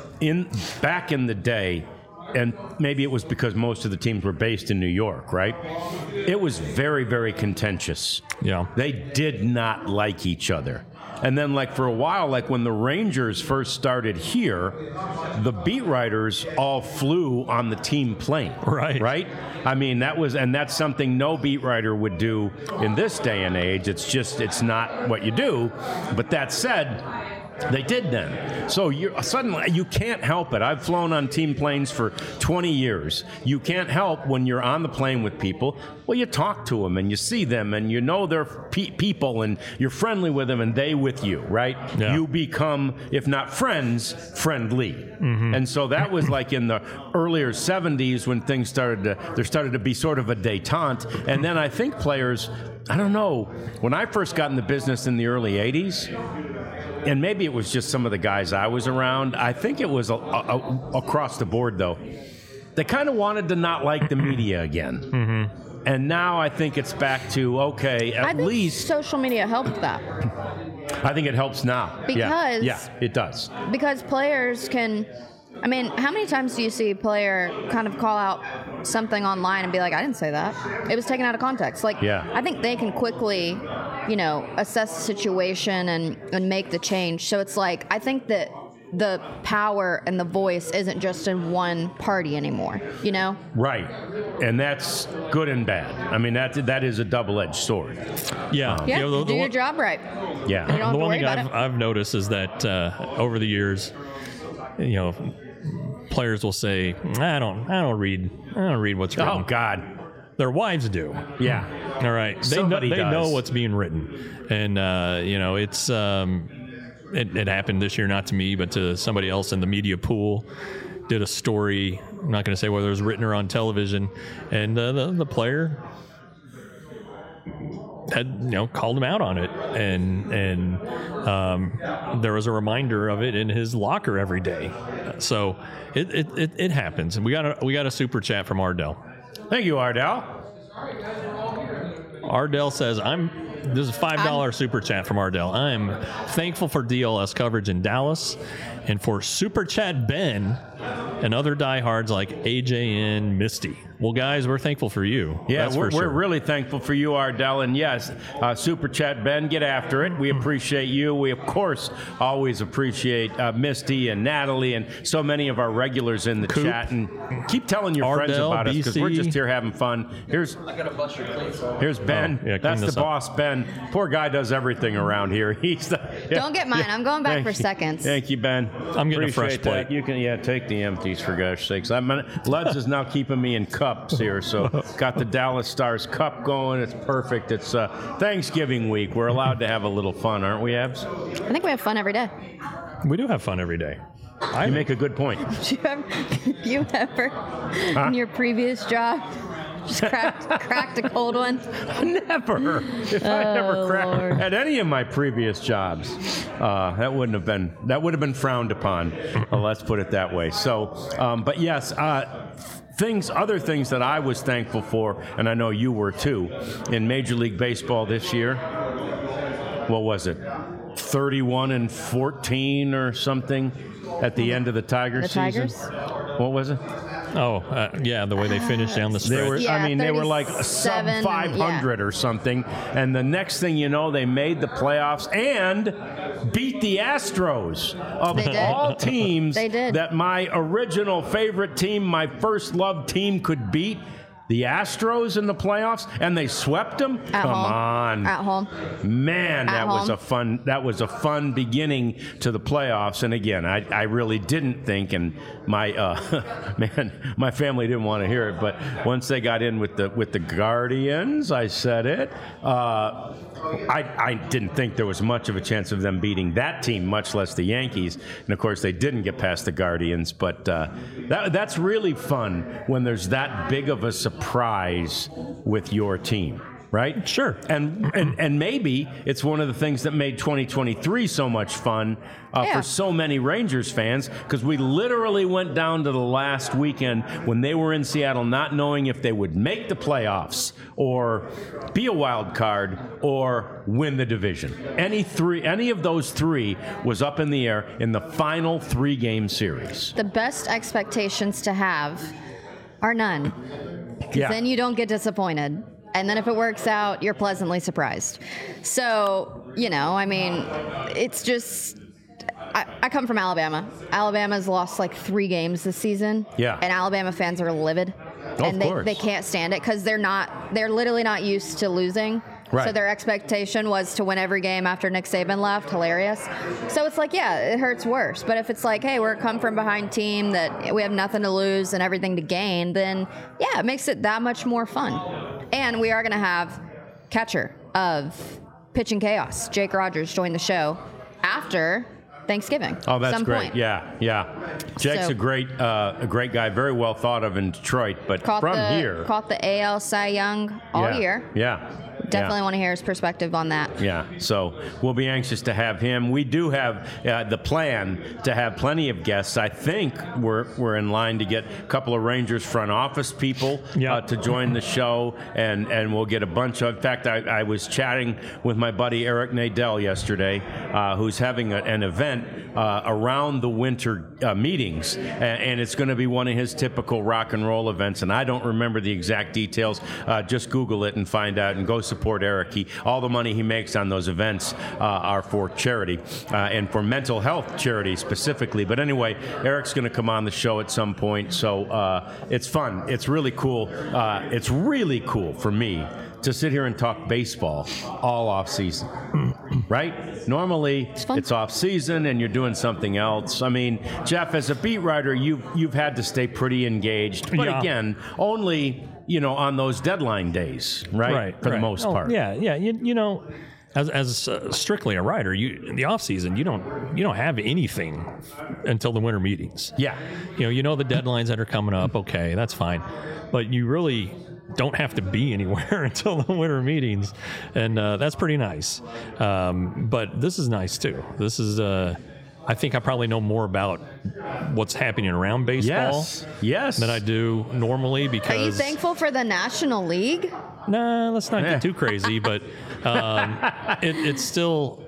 S1: back in the day, and maybe it was because most of the teams were based in New York, right? It was very, very contentious.
S3: Yeah.
S1: They did not like each other. And then, like, for a while, like when the Rangers first started here, the beat writers all flew on the team plane.
S3: Right.
S1: Right? I mean, that's something no beat writer would do in this day and age. It's not what you do. But that said, they did then. So suddenly you can't help it. I've flown on team planes for 20 years. You can't help when you're on the plane with people. Well, you talk to them and you see them and you know they're people and you're friendly with them and they with you, right?
S3: Yeah.
S1: You become, if not friends, friendly. Mm-hmm. And so that was like in the earlier 70s when things there started to be sort of a detente. And then I think players, I don't know, when I first got in the business in the early 80s, and maybe it was just some of the guys I was around. I think it was across the board, though. They kind of wanted to not like the media again. Mm-hmm. And now I think it's back to, okay, at least...
S2: social media helped that.
S1: I think it helps now.
S2: Because...
S1: Yeah, it does.
S2: Because players can... I mean, how many times do you see a player kind of call out something online and be like, I didn't say that. It was taken out of context. Like,
S1: yeah.
S2: I think they can quickly, assess the situation and make the change. So it's like, I think that the power and the voice isn't just in one party anymore, Right.
S1: And that's good and bad. I mean, that is a double-edged sword.
S3: Yeah.
S2: Yeah, do your job right.
S1: Yeah.
S2: You don't have
S3: The
S2: to
S3: one
S2: worry
S3: thing
S2: about it.
S3: I've noticed is that over the years, players will say, I don't read what's written.
S1: Oh God.
S3: Their wives do.
S1: Yeah.
S3: All right. They know what's being written. And it's it happened this year, not to me, but to somebody else in the media pool. Did a story, I'm not going to say whether it was written or on television, and the player had called him out on it, and there was a reminder of it in his locker every day. So it happens. And we got a super chat from Ardell.
S1: Thank you, Ardell.
S3: Ardell says, this is a $5 super chat from Ardell. I'm thankful for DLS coverage in Dallas and for Super Chat Ben and other diehards like AJ and Misty. Well, guys, we're thankful for you.
S1: Yeah, we're
S3: sure.
S1: really thankful for you, Ardell. And yes, Super Chat Ben, get after it. We appreciate you. We, of course, always appreciate Misty and Natalie and so many of our regulars in the chat. And keep telling your friends
S3: Ardell,
S1: about us because we're
S3: BC.
S1: just here having fun. Here's Ben.
S3: yeah,
S1: That's
S3: clean
S1: the
S3: this up.
S1: boss, Ben. Poor guy does everything around here. He's the. Yeah,
S2: Don't get mine.
S1: yeah.
S2: I'm going back
S1: Thank
S2: for
S1: you.
S2: seconds.
S1: Thank you, Ben.
S3: I'm getting a fresh
S1: Appreciate that.
S3: plate.
S1: You can, take the empties for gosh sakes. Luds is now keeping me in cups here, so got the Dallas Stars cup going. It's perfect. It's Thanksgiving week. We're allowed to have a little fun, aren't we, Abs?
S2: I think we have fun every day.
S3: We do have fun every day.
S1: You make a good point.
S2: You ever, in your previous job, just cracked a cold one?
S1: Never. If I never
S2: Lord.
S1: cracked at any of my previous jobs, that would have been frowned upon. Let's put it that way. So, but yes, other things that I was thankful for, and I know you were too, in Major League Baseball this year. What was it? 31-14 or something at the end of the Tigers season.
S2: Tigers?
S1: What was it?
S3: Yeah, the way they finished down the stretch.
S1: They were,
S2: Yeah,
S1: they were like sub
S2: 37,
S1: 500 or something. And the next thing you know, they made the playoffs and beat the Astros. Of
S2: They did.
S1: all teams
S2: They did.
S1: that my original favorite team, my first love team could beat, the Astros in the playoffs, and they swept them.
S2: At
S1: Come
S2: home.
S1: on,
S2: At home.
S1: man,
S2: At
S1: that was
S2: home.
S1: a fun beginning to the playoffs. And again, I really didn't think, and my my family didn't want to hear it, but once they got in with the Guardians, I said it. I didn't think there was much of a chance of them beating that team, much less the Yankees. And of course, they didn't get past the Guardians. But that's really fun when there's that big of a surprise with your team, right?
S3: Sure.
S1: And maybe it's one of the things that made 2023 so much fun for so many Rangers fans, because we literally went down to the last weekend when they were in Seattle not knowing if they would make the playoffs or be a wild card or win the division. Any of those three was up in the air in the final 3-game series.
S2: The best expectations to have are none.
S1: Yeah.
S2: Then you don't get disappointed. And then if it works out, you're pleasantly surprised. So, it's just, I come from Alabama. Alabama's lost like 3 games this season.
S1: Yeah.
S2: And Alabama fans are livid.
S1: Of course.
S2: They can't stand it because they're literally not used to losing.
S1: Right.
S2: So their expectation was to win every game after Nick Saban left. Hilarious. So it's like, it hurts worse. But if it's like, hey, we're a come from behind team that we have nothing to lose and everything to gain, then it makes it that much more fun. And we are going to have catcher of Pitching Chaos, Jake Rogers, join the show after Thanksgiving.
S1: Oh, that's
S2: some
S1: great.
S2: point.
S1: Yeah. Jake's
S2: So-
S1: a great guy, very well thought of in Detroit, but
S2: Caught
S1: here.
S2: the AL Cy Young all year.
S1: Yeah.
S2: Definitely want to hear his perspective on that.
S1: Yeah, so we'll be anxious to have him. We do have the plan to have plenty of guests. I think we're in line to get a couple of Rangers front office people to join the show, and we'll get a bunch of. In fact, I was chatting with my buddy Eric Nadel yesterday, who's having an event around the winter meetings, and it's going to be one of his typical rock and roll events. And I don't remember the exact details. Just Google it and find out, and go support Eric. All the money he makes on those events are for charity and for mental health charity specifically. But anyway, Eric's going to come on the show at some point, so it's fun. It's really cool. It's really cool for me to sit here and talk baseball all off season, right? Normally it's off season and you're doing something else. I mean, Jeff, as a beat writer, you've had to stay pretty engaged, but again, only on those deadline days, right? For the most part.
S3: Yeah. As strictly a writer, the off season you don't have anything until the winter meetings.
S1: Yeah.
S3: The deadlines that are coming up. Okay, that's fine, but you really don't have to be anywhere until the winter meetings, and that's pretty nice. But this is nice too. This is. I think I probably know more about what's happening around baseball than I do normally. Because
S2: are you thankful for the National League?
S3: Nah, let's not get too crazy, but it's still.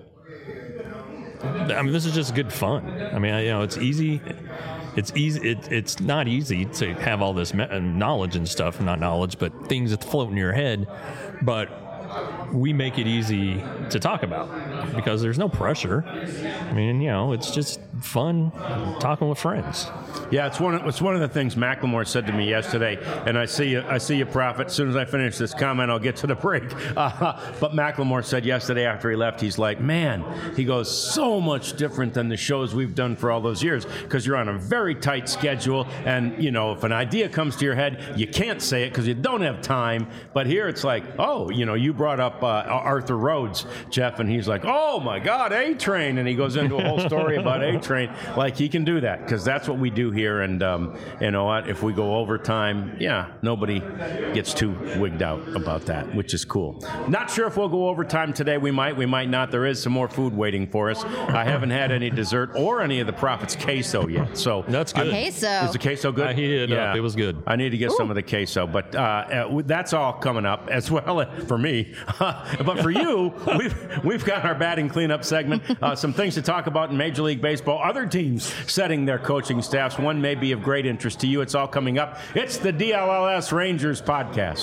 S3: I mean, this is just good fun. I mean, it's easy. It's easy. It's not easy to have all this knowledge and stuff, not knowledge, but things that float in your head. But we make it easy to talk about because there's no pressure. I mean, it's just fun talking with friends.
S1: Yeah, it's one of the things Macklemore said to me yesterday, and I see you, Prophet. As soon as I finish this comment, I'll get to the break. But Macklemore said yesterday after he left, he's like, man, he goes, so much different than the shows we've done for all those years, because you're on a very tight schedule, and if an idea comes to your head, you can't say it because you don't have time. But here it's like, you brought up Arthur Rhodes, Jeff, and he's like, oh my God, A-Train, and he goes into a whole story about A-Train. Like, he can do that because that's what we do here. And you know what? If we go overtime, nobody gets too wigged out about that, which is cool. Not sure if we'll go overtime today. We might not. There is some more food waiting for us. I haven't had any dessert or any of the Prophet's queso yet. So
S3: that's good.
S2: Queso.
S1: Is the queso good?
S3: I heated it up. It was good.
S1: I need to get some of the queso, but that's all coming up as well for me. me. But for you, we've got our batting cleanup segment. Some things to talk about in Major League Baseball. Other teams setting their coaching staffs. One may be of great interest to you. It's all coming up. It's the DLLS Rangers podcast.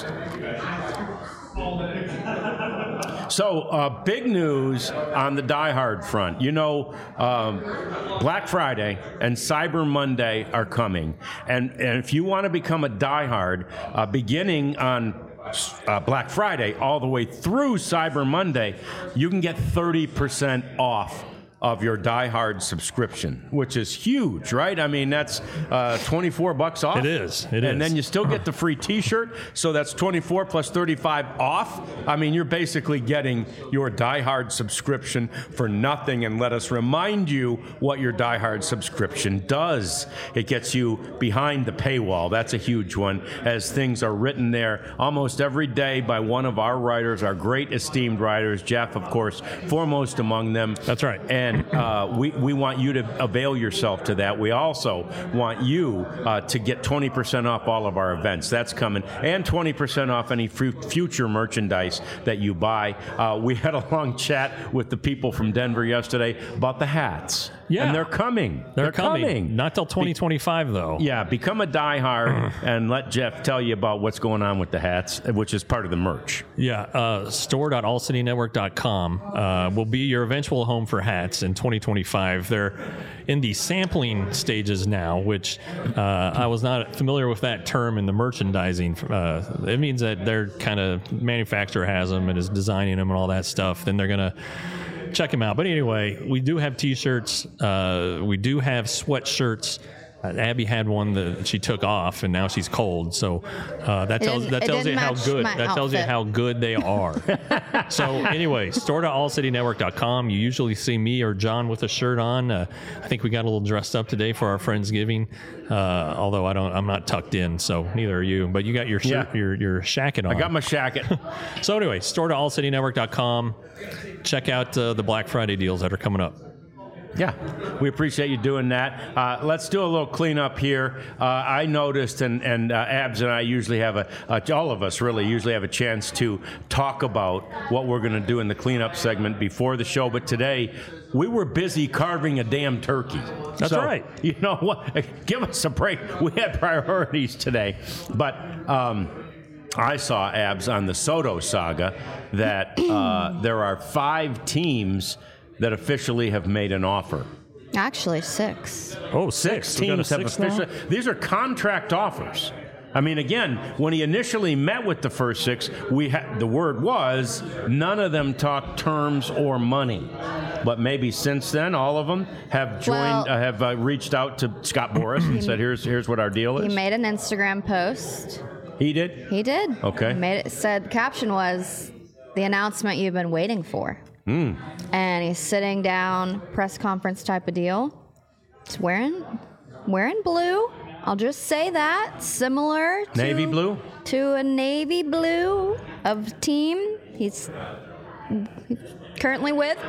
S1: So, big news on the Die Hard front. You know, Black Friday and Cyber Monday are coming. And if you want to become a Die Hard, beginning on Black Friday all the way through Cyber Monday, you can get 30% off of your Die Hard subscription, which is huge, right? I mean, that's $24 off.
S3: It is.
S1: And then you still get the free T-shirt, so that's 24 plus 35 off. I mean, you're basically getting your Die Hard subscription for nothing. And let us remind you what your Die Hard subscription does. It gets you behind the paywall. That's a huge one, as things are written there almost every day by one of our writers, our great esteemed writers, Jeff, of course, foremost among them.
S3: That's right.
S1: And we want you to avail yourself to that. We also want you to get 20% off all of our events. That's coming. And 20% off any future merchandise that you buy. We had a long chat with the people from Denver yesterday about the hats.
S3: Yeah.
S1: And they're coming.
S3: They're coming. Not till 2025, though.
S1: Yeah, become a diehard and let Jeff tell you about what's going on with the hats, which is part of the merch.
S3: Yeah, store.allcitynetwork.com will be your eventual home for hats in 2025. They're in the sampling stages now, which I was not familiar with that term in the merchandising. It means that their kind of manufacturer has them and is designing them and all that stuff. Then they're going to check them out. But anyway, we do have T-shirts. We do have sweatshirts. Abby had one that she took off, and now she's cold. So that tells you how good how good they are. So anyway, store.allcitynetwork.com. You usually see me or John with a shirt on. I think we got a little dressed up today for our Friendsgiving. Although I'm not tucked in, so neither are you. But you got your shirt, your shacket on.
S1: I got my shacket.
S3: So anyway, store.allcitynetwork.com. Check out the Black Friday deals that are coming up.
S1: Yeah, we appreciate you doing that. Let's do a little cleanup here. I noticed, and Abs and I usually have all of us really usually have a chance to talk about what we're going to do in the cleanup segment before the show. But today, we were busy carving a damn turkey.
S3: That's right.
S1: You know what? Give us a break. We had priorities today. But I saw, Abs, on the Soto saga that there are 5 teams that officially have made an offer.
S2: Actually, 6.
S3: Oh,
S1: 6 teams have officially. These are contract offers. I mean, again, when he initially met with the first 6, the word was none of them talked terms or money. But maybe since then, all of them have joined, have reached out to Scott Boras and said, "Here's what our deal is."
S2: He made an Instagram post.
S1: He did.
S2: He did.
S1: Okay.
S2: He made it. Said caption was the announcement you've been waiting for. And he's sitting down, press conference type of deal. He's wearing blue. I'll just say that. Similar to
S1: navy blue?
S2: To a navy blue of team he's currently with.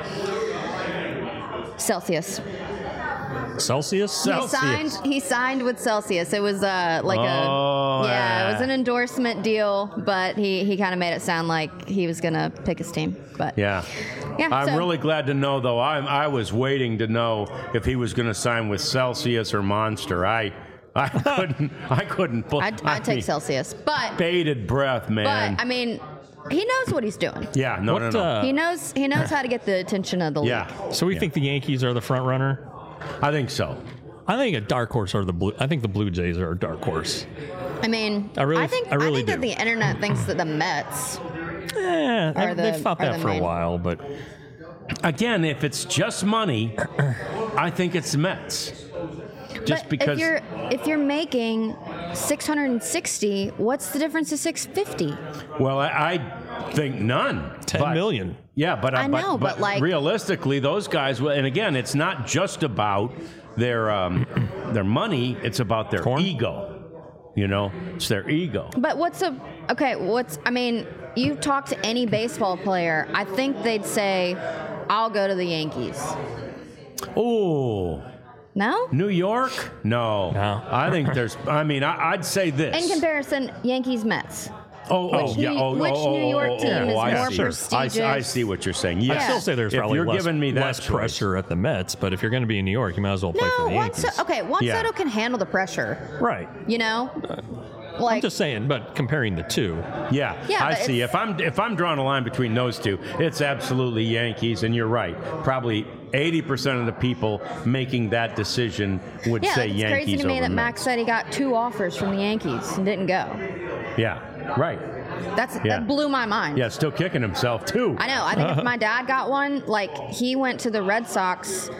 S2: Celsius.
S3: Celsius?
S2: He signed with Celsius. It was it was an endorsement deal, but he kind of made it sound like he was gonna pick his team. But
S1: yeah. I'm really glad to know, though. I was waiting to know if he was going to sign with Celsius or Monster. I couldn't.
S2: I'd take Celsius, but
S1: bated breath, man.
S2: But I mean, he knows what he's doing.
S1: Yeah, no.
S2: He knows how to get the attention of the league.
S1: Yeah.
S3: So we think the Yankees are the front runner?
S1: I think so.
S3: I think a dark horse are the Blue. I think the Blue Jays are a dark horse.
S2: I mean, I think that the internet thinks that the Mets.
S3: Yeah, they've thought that for a while, but
S1: again, if it's just money, I think it's the Mets. Just
S2: but
S1: because
S2: if you're making $660, what's the difference to $650?
S1: Well, I think none.
S3: $10 million.
S1: Yeah, but
S2: I know, but like
S1: realistically, those guys. And again, it's not just about their money; it's about their ego. You know, it's their ego.
S2: But I mean, you talk to any baseball player, I think they'd say, I'll go to the Yankees.
S1: Oh.
S2: No?
S1: New York? No.
S3: No.
S1: I think I'd say this.
S2: In comparison, Yankees, Mets. Which New York team is more prestigious?
S1: I see what you're saying. Yes.
S3: I still say there's
S1: If
S3: probably
S1: you're giving me that
S3: less
S1: choice.
S3: pressure at the Mets, but if you're going to be in New York, you might as well play for the Yankees.
S2: Juan Soto can handle the pressure.
S3: Right.
S2: You know,
S3: I'm just saying, but comparing the two.
S1: Yeah, I see. If I'm drawing a line between those two, it's absolutely Yankees, and you're right. Probably 80% of the people making that decision would say Yankees.
S2: It's crazy to me that
S1: Mets.
S2: Max said he got 2 offers from the Yankees and didn't go.
S1: Yeah, right.
S2: That blew my mind.
S1: Yeah, still kicking himself too.
S2: I know. I think if my dad got one, like he went to the Red Sox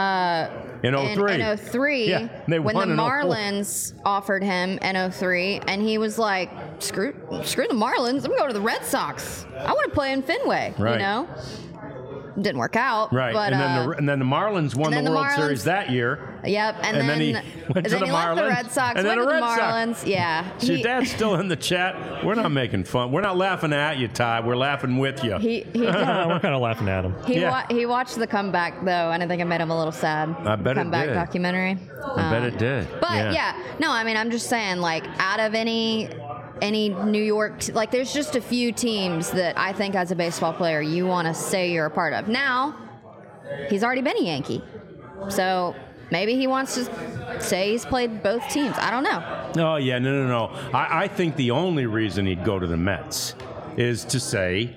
S1: in 03.
S2: In 03,
S1: Yeah, they
S2: when
S1: won
S2: the
S1: in 04.
S2: Marlins offered him in 03, and he was like, "Screw the Marlins! I'm going to the Red Sox. I want to play in Fenway."
S1: Right.
S2: You know, didn't work out.
S1: Right,
S2: But,
S1: and then the Marlins won the World Series that year.
S2: Yep, and
S1: then he went to the
S2: he left the
S1: Marlins,
S2: Red Sox,
S1: and then
S2: went to
S1: the
S2: the
S1: Red Sox.
S2: Marlins. Yeah.
S1: So your dad's still in the chat. We're not making fun. We're not laughing at you, Ty. We're laughing with you.
S2: He
S3: We're kind of laughing at him.
S2: he watched the comeback though, and I think it made him a little sad.
S1: I bet it
S2: comeback
S1: did.
S2: documentary.
S1: I bet it did.
S2: But no, I mean, I'm just saying, like, out of any New York, like, there's just a few teams that I think as a baseball player you want to say you're a part of. Now, he's already been a Yankee, so maybe he wants to say he's played both teams. I don't know.
S1: Oh, yeah, no. I think the only reason he'd go to the Mets is to say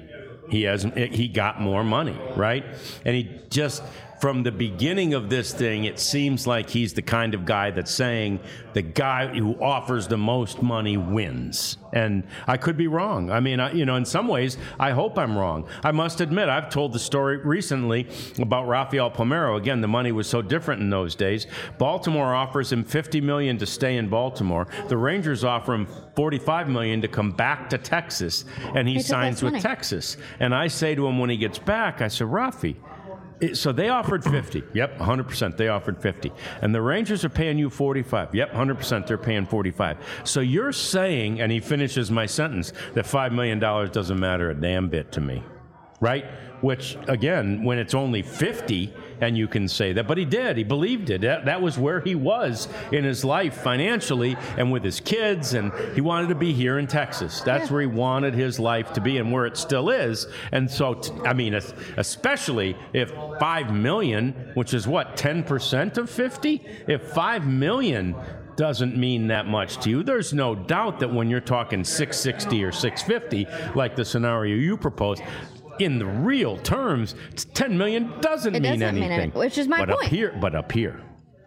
S1: he got more money, right? And he just, from the beginning of this thing, it seems like he's the kind of guy that's saying the guy who offers the most money wins. And I could be wrong. I mean, in some ways, I hope I'm wrong. I must admit, I've told the story recently about Rafael Palmeiro. Again, the money was so different in those days. Baltimore offers him $50 million to stay in Baltimore. The Rangers offer him $45 million to come back to Texas, and he signs with Texas. And I say to him when he gets back, I said, Rafi, so they offered 50. Yep, 100%. They offered 50. And the Rangers are paying you 45. Yep, 100%. They're paying 45. So you're saying, and he finishes my sentence, that $5 million doesn't matter a damn bit to me, right? Which, again, when it's only 50, and you can say that, but he did. He believed it. That was where he was in his life financially and with his kids, and he wanted to be here in Texas. That's where he wanted his life to be and where it still is. And so, I mean, especially if $5 million, which is what, 10% of 50? If $5 million doesn't mean that much to you, there's no doubt that when you're talking 660 or 650, like the scenario you proposed, in the real terms, $10 million doesn't mean anything.
S2: Which is my point.
S1: But up here,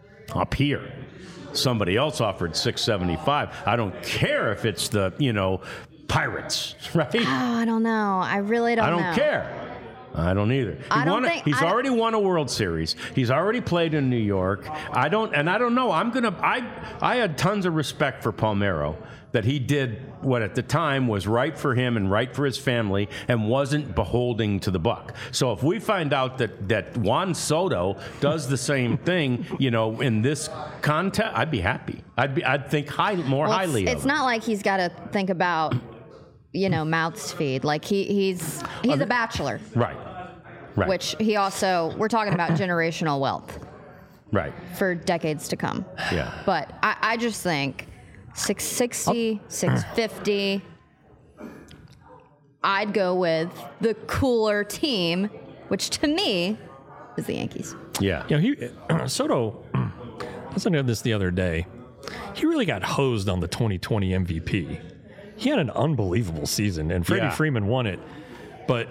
S1: somebody else offered $675. I don't care if it's the, Pirates, right?
S2: Oh, I don't know. I really don't know.
S1: I don't care. I don't either. He's already won a World Series. He's already played in New York. I don't know. I had tons of respect for Palmeiro, that he did what at the time was right for him and right for his family and wasn't beholding to the buck. So if we find out that Juan Soto does the same thing, in this contest, I'd be happy. I'd think more highly of him.
S2: It's not like he's got to think about, mouths to feed. Like he's a bachelor.
S1: Right.
S2: Which he also, we're talking about generational wealth.
S1: Right.
S2: For decades to come.
S1: Yeah.
S2: But I just think 660, 650, I'd go with the cooler team, which to me is the Yankees.
S1: Yeah.
S3: Soto, I was looking at this the other day. He really got hosed on the 2020 MVP. He had an unbelievable season, and Freddie Freeman won it. But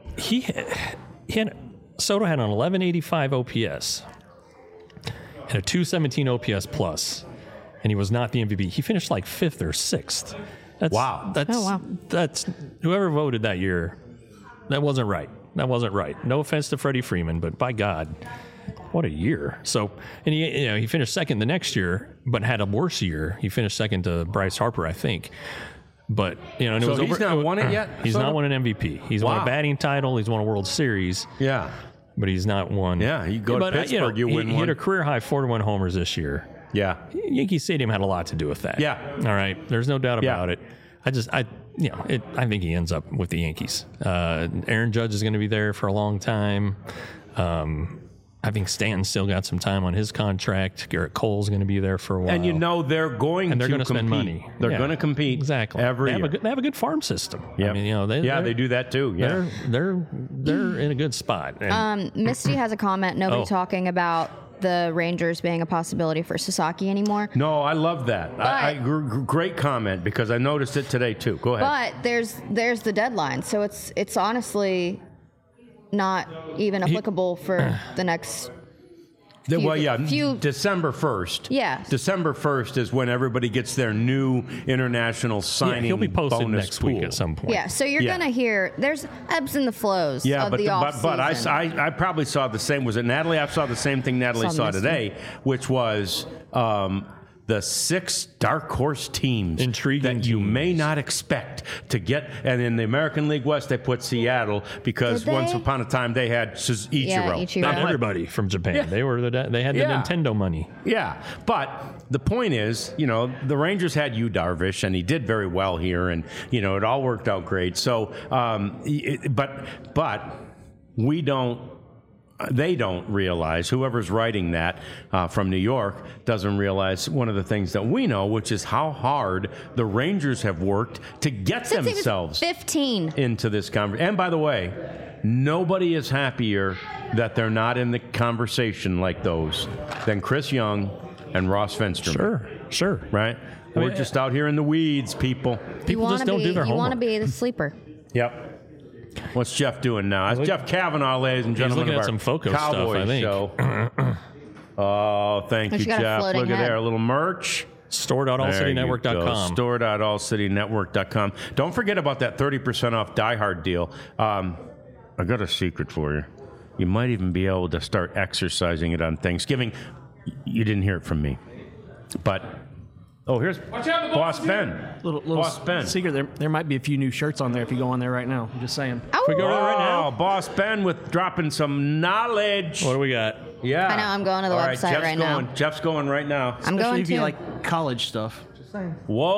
S3: Soto had an 1185 OPS and a 217 OPS plus, and he was not the MVP. He finished like 5th or 6th.
S1: Wow.
S3: That's whoever voted that year. That wasn't right. No offense to Freddie Freeman, but by God, what a year. So, and he finished 2nd the next year, but had a worse year. He finished 2nd to Bryce Harper, I think. But and it was
S1: he's not won it yet.
S3: He's not won an MVP. He's won a batting title. He's won a World Series.
S1: Yeah,
S3: but he's not won.
S1: Yeah, you go to Pittsburgh, you win one.
S3: He hit a career high 41 homers this year.
S1: Yeah,
S3: Yankee Stadium had a lot to do with that.
S1: Yeah,
S3: all right. There's no doubt about it. I think he ends up with the Yankees. Aaron Judge is going to be there for a long time. I think Stanton's still got some time on his contract. Garrett Cole's going to be there for a while.
S1: And they're going
S3: and they're
S1: to
S3: going to spend money.
S1: They're going to compete
S3: exactly
S1: every year.
S3: They have a good farm system.
S1: Yep.
S3: I mean, they
S1: do that too. Yeah,
S3: they're in a good spot. And,
S2: Misty has a comment. Nobody talking about the Rangers being a possibility for Sasaki anymore.
S1: No, I love that. Great comment, because I noticed it today too. Go ahead.
S2: But there's the deadline, so it's honestly not even applicable for the next
S1: December 1st.
S2: Yeah.
S1: December 1st is when everybody gets their new international signing
S3: he'll be posted
S1: bonus
S3: next
S1: pool.
S3: week at some point.
S2: Yeah, so you're going to hear there's ebbs and the flows of the offseason.
S1: But I probably saw the same. Was it Natalie? I saw the same thing Natalie saw today, which was the 6 dark horse teams
S3: Intriguing
S1: that you may not expect to get. And in the American League West, they put Seattle because once upon a time they had Ichiro.
S3: Not everybody from Japan.
S1: Yeah.
S3: They had the Nintendo money.
S1: Yeah, but the point is, the Rangers had Yu Darvish, and he did very well here, and it all worked out great. So, but we don't. They don't realize, whoever's writing that from New York doesn't realize one of the things that we know, which is how hard the Rangers have worked to get themselves
S2: 15
S1: into this conversation. And by the way, nobody is happier that they're not in the conversation like those than Chris Young and Ross Fensterman.
S3: Sure.
S1: Right? We're just out here in the weeds, people.
S3: People just don't do their homework.
S2: You want to be the sleeper.
S1: Yep. What's Jeff doing now? It's Jeff Kavanaugh, ladies and gentlemen,
S3: looking
S1: of
S3: at
S1: our
S3: some Foco
S1: Cowboy
S3: stuff, I think.
S1: show. Oh, thank you, Jeff. Look at there, a little merch.
S3: Store.allcitynetwork.com.
S1: Store.allcitynetwork.com. Don't forget about that 30% off Die Hard deal. I got a secret for you. You might even be able to start exercising it on Thanksgiving. You didn't hear it from me. But, here's Boss Ben.
S9: Little
S1: Boss Ben.
S9: secret, there might be a few new shirts on there if you go on there right now. I'm just saying.
S3: We go right now.
S1: Boss Ben with dropping some knowledge.
S3: What do we got?
S1: Yeah.
S2: I know, I'm going to the website right now.
S1: Jeff's going right now.
S2: I'm going
S9: if you
S2: to.
S9: like college stuff. Just saying.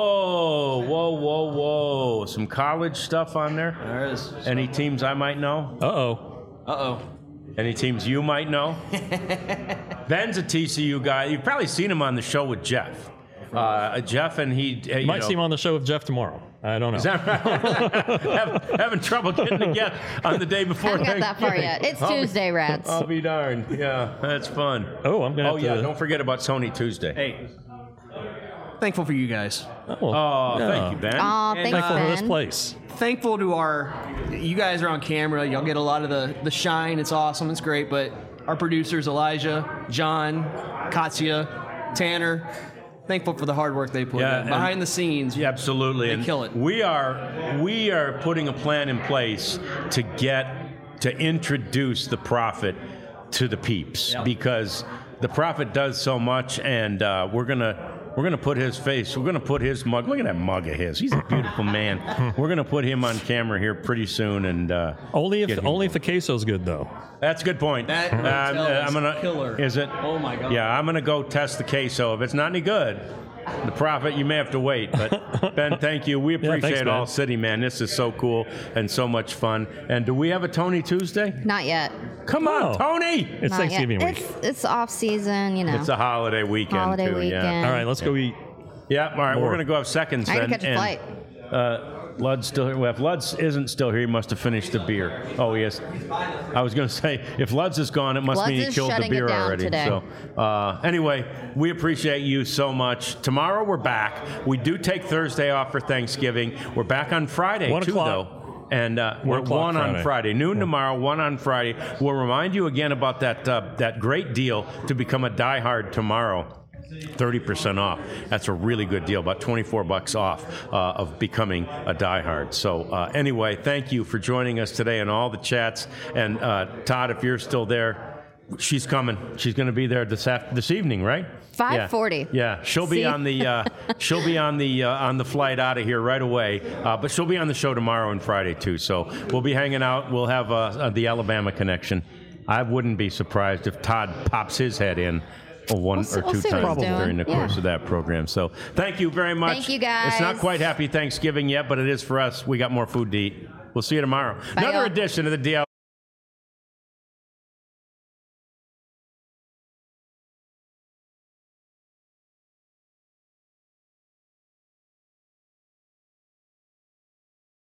S1: Whoa. Some college stuff on there?
S9: There is.
S1: Any teams I might know?
S9: Uh-oh.
S1: Any teams you might know? Ben's a TCU guy. You've probably seen him on the show with Jeff. Jeff and he...
S3: You might see him on the show with Jeff tomorrow. I don't know.
S1: Is that right? having trouble getting together on the day before.
S2: I haven't got that far yet. It's Tuesday, Rads.
S1: I'll be darned. Yeah, that's fun.
S3: Oh, I'm going to have to...
S1: don't forget about Sony Tuesday.
S9: Hey. Thankful for you guys.
S1: Thank you, Ben.
S2: Oh, thanks,
S3: Thankful for this
S2: Ben.
S3: place.
S9: Thankful to you guys are on camera. Y'all get a lot of the shine. It's awesome. It's great. But our producers, Elijah, John, Katya, Tanner, thankful for the hard work they put in. Behind the scenes.
S1: Yeah, absolutely.
S9: They kill it.
S1: We are putting a plan in place to introduce the Prophet to the peeps because the Prophet does so much, and we're gonna put his face. We're gonna put his mug. Look at that mug of his. He's a beautiful man. We're gonna put him on camera here pretty soon, and
S3: only if the queso's good though.
S1: That's a good point.
S9: That
S1: I'm gonna
S9: killer.
S1: Is it?
S9: Oh my God.
S1: Yeah, I'm gonna go test the queso. If it's not any good, the Prophet, you may have to wait. But Ben, thank you. We appreciate
S3: thanks,
S1: All
S3: Ben.
S1: City, man. This is so cool and so much fun. And do we have a Tony Tuesday?
S2: Not yet.
S1: Come on, Tony.
S3: It's
S2: Not
S3: Thanksgiving
S2: yet.
S3: week.
S2: It's off season,
S1: It's a holiday weekend
S2: Holiday
S1: too.
S2: weekend.
S1: Yeah.
S3: All right, let's go eat.
S1: Yeah. All right.
S3: More.
S1: We're gonna go have seconds.
S2: I gotta
S1: then,
S2: catch a flight.
S1: Lud's still here. Well, if Lud's isn't still here, he must have finished the beer. Oh, he is. I was going to say, if Lud's is gone, it must
S2: Lud's
S1: mean he
S2: is
S1: killed the
S2: shutting
S1: beer
S2: it down
S1: already.
S2: today.
S1: So, anyway, we appreciate you so much. Tomorrow we're back. We do take Thursday off for Thanksgiving. We're back on Friday
S3: 1
S1: too,
S3: o'clock.
S1: though. And we're
S3: 1 o'clock
S1: 1 on
S3: Friday.
S1: Friday, noon tomorrow, 1 on Friday. We'll remind you again about that great deal to become a diehard tomorrow. 30% off. That's a really good deal, about $24 off of becoming a diehard. So anyway, thank you for joining us today in all the chats. And Todd, if you're still there, she's coming. She's going to be there this evening, right?
S2: 5:40.
S1: Yeah, she'll be on the flight out of here right away. But she'll be on the show tomorrow and Friday too. So we'll be hanging out. We'll have the Alabama connection. I wouldn't be surprised if Todd pops his head in one or two
S2: we'll see what
S1: times
S2: he's doing.
S1: during the course of that program. So thank you very much.
S2: Thank you, guys.
S1: It's not quite Happy Thanksgiving yet, but it is for us. We got more food to eat. We'll see you tomorrow.
S2: Bye,
S1: Another
S2: y'all.
S1: edition of the DL.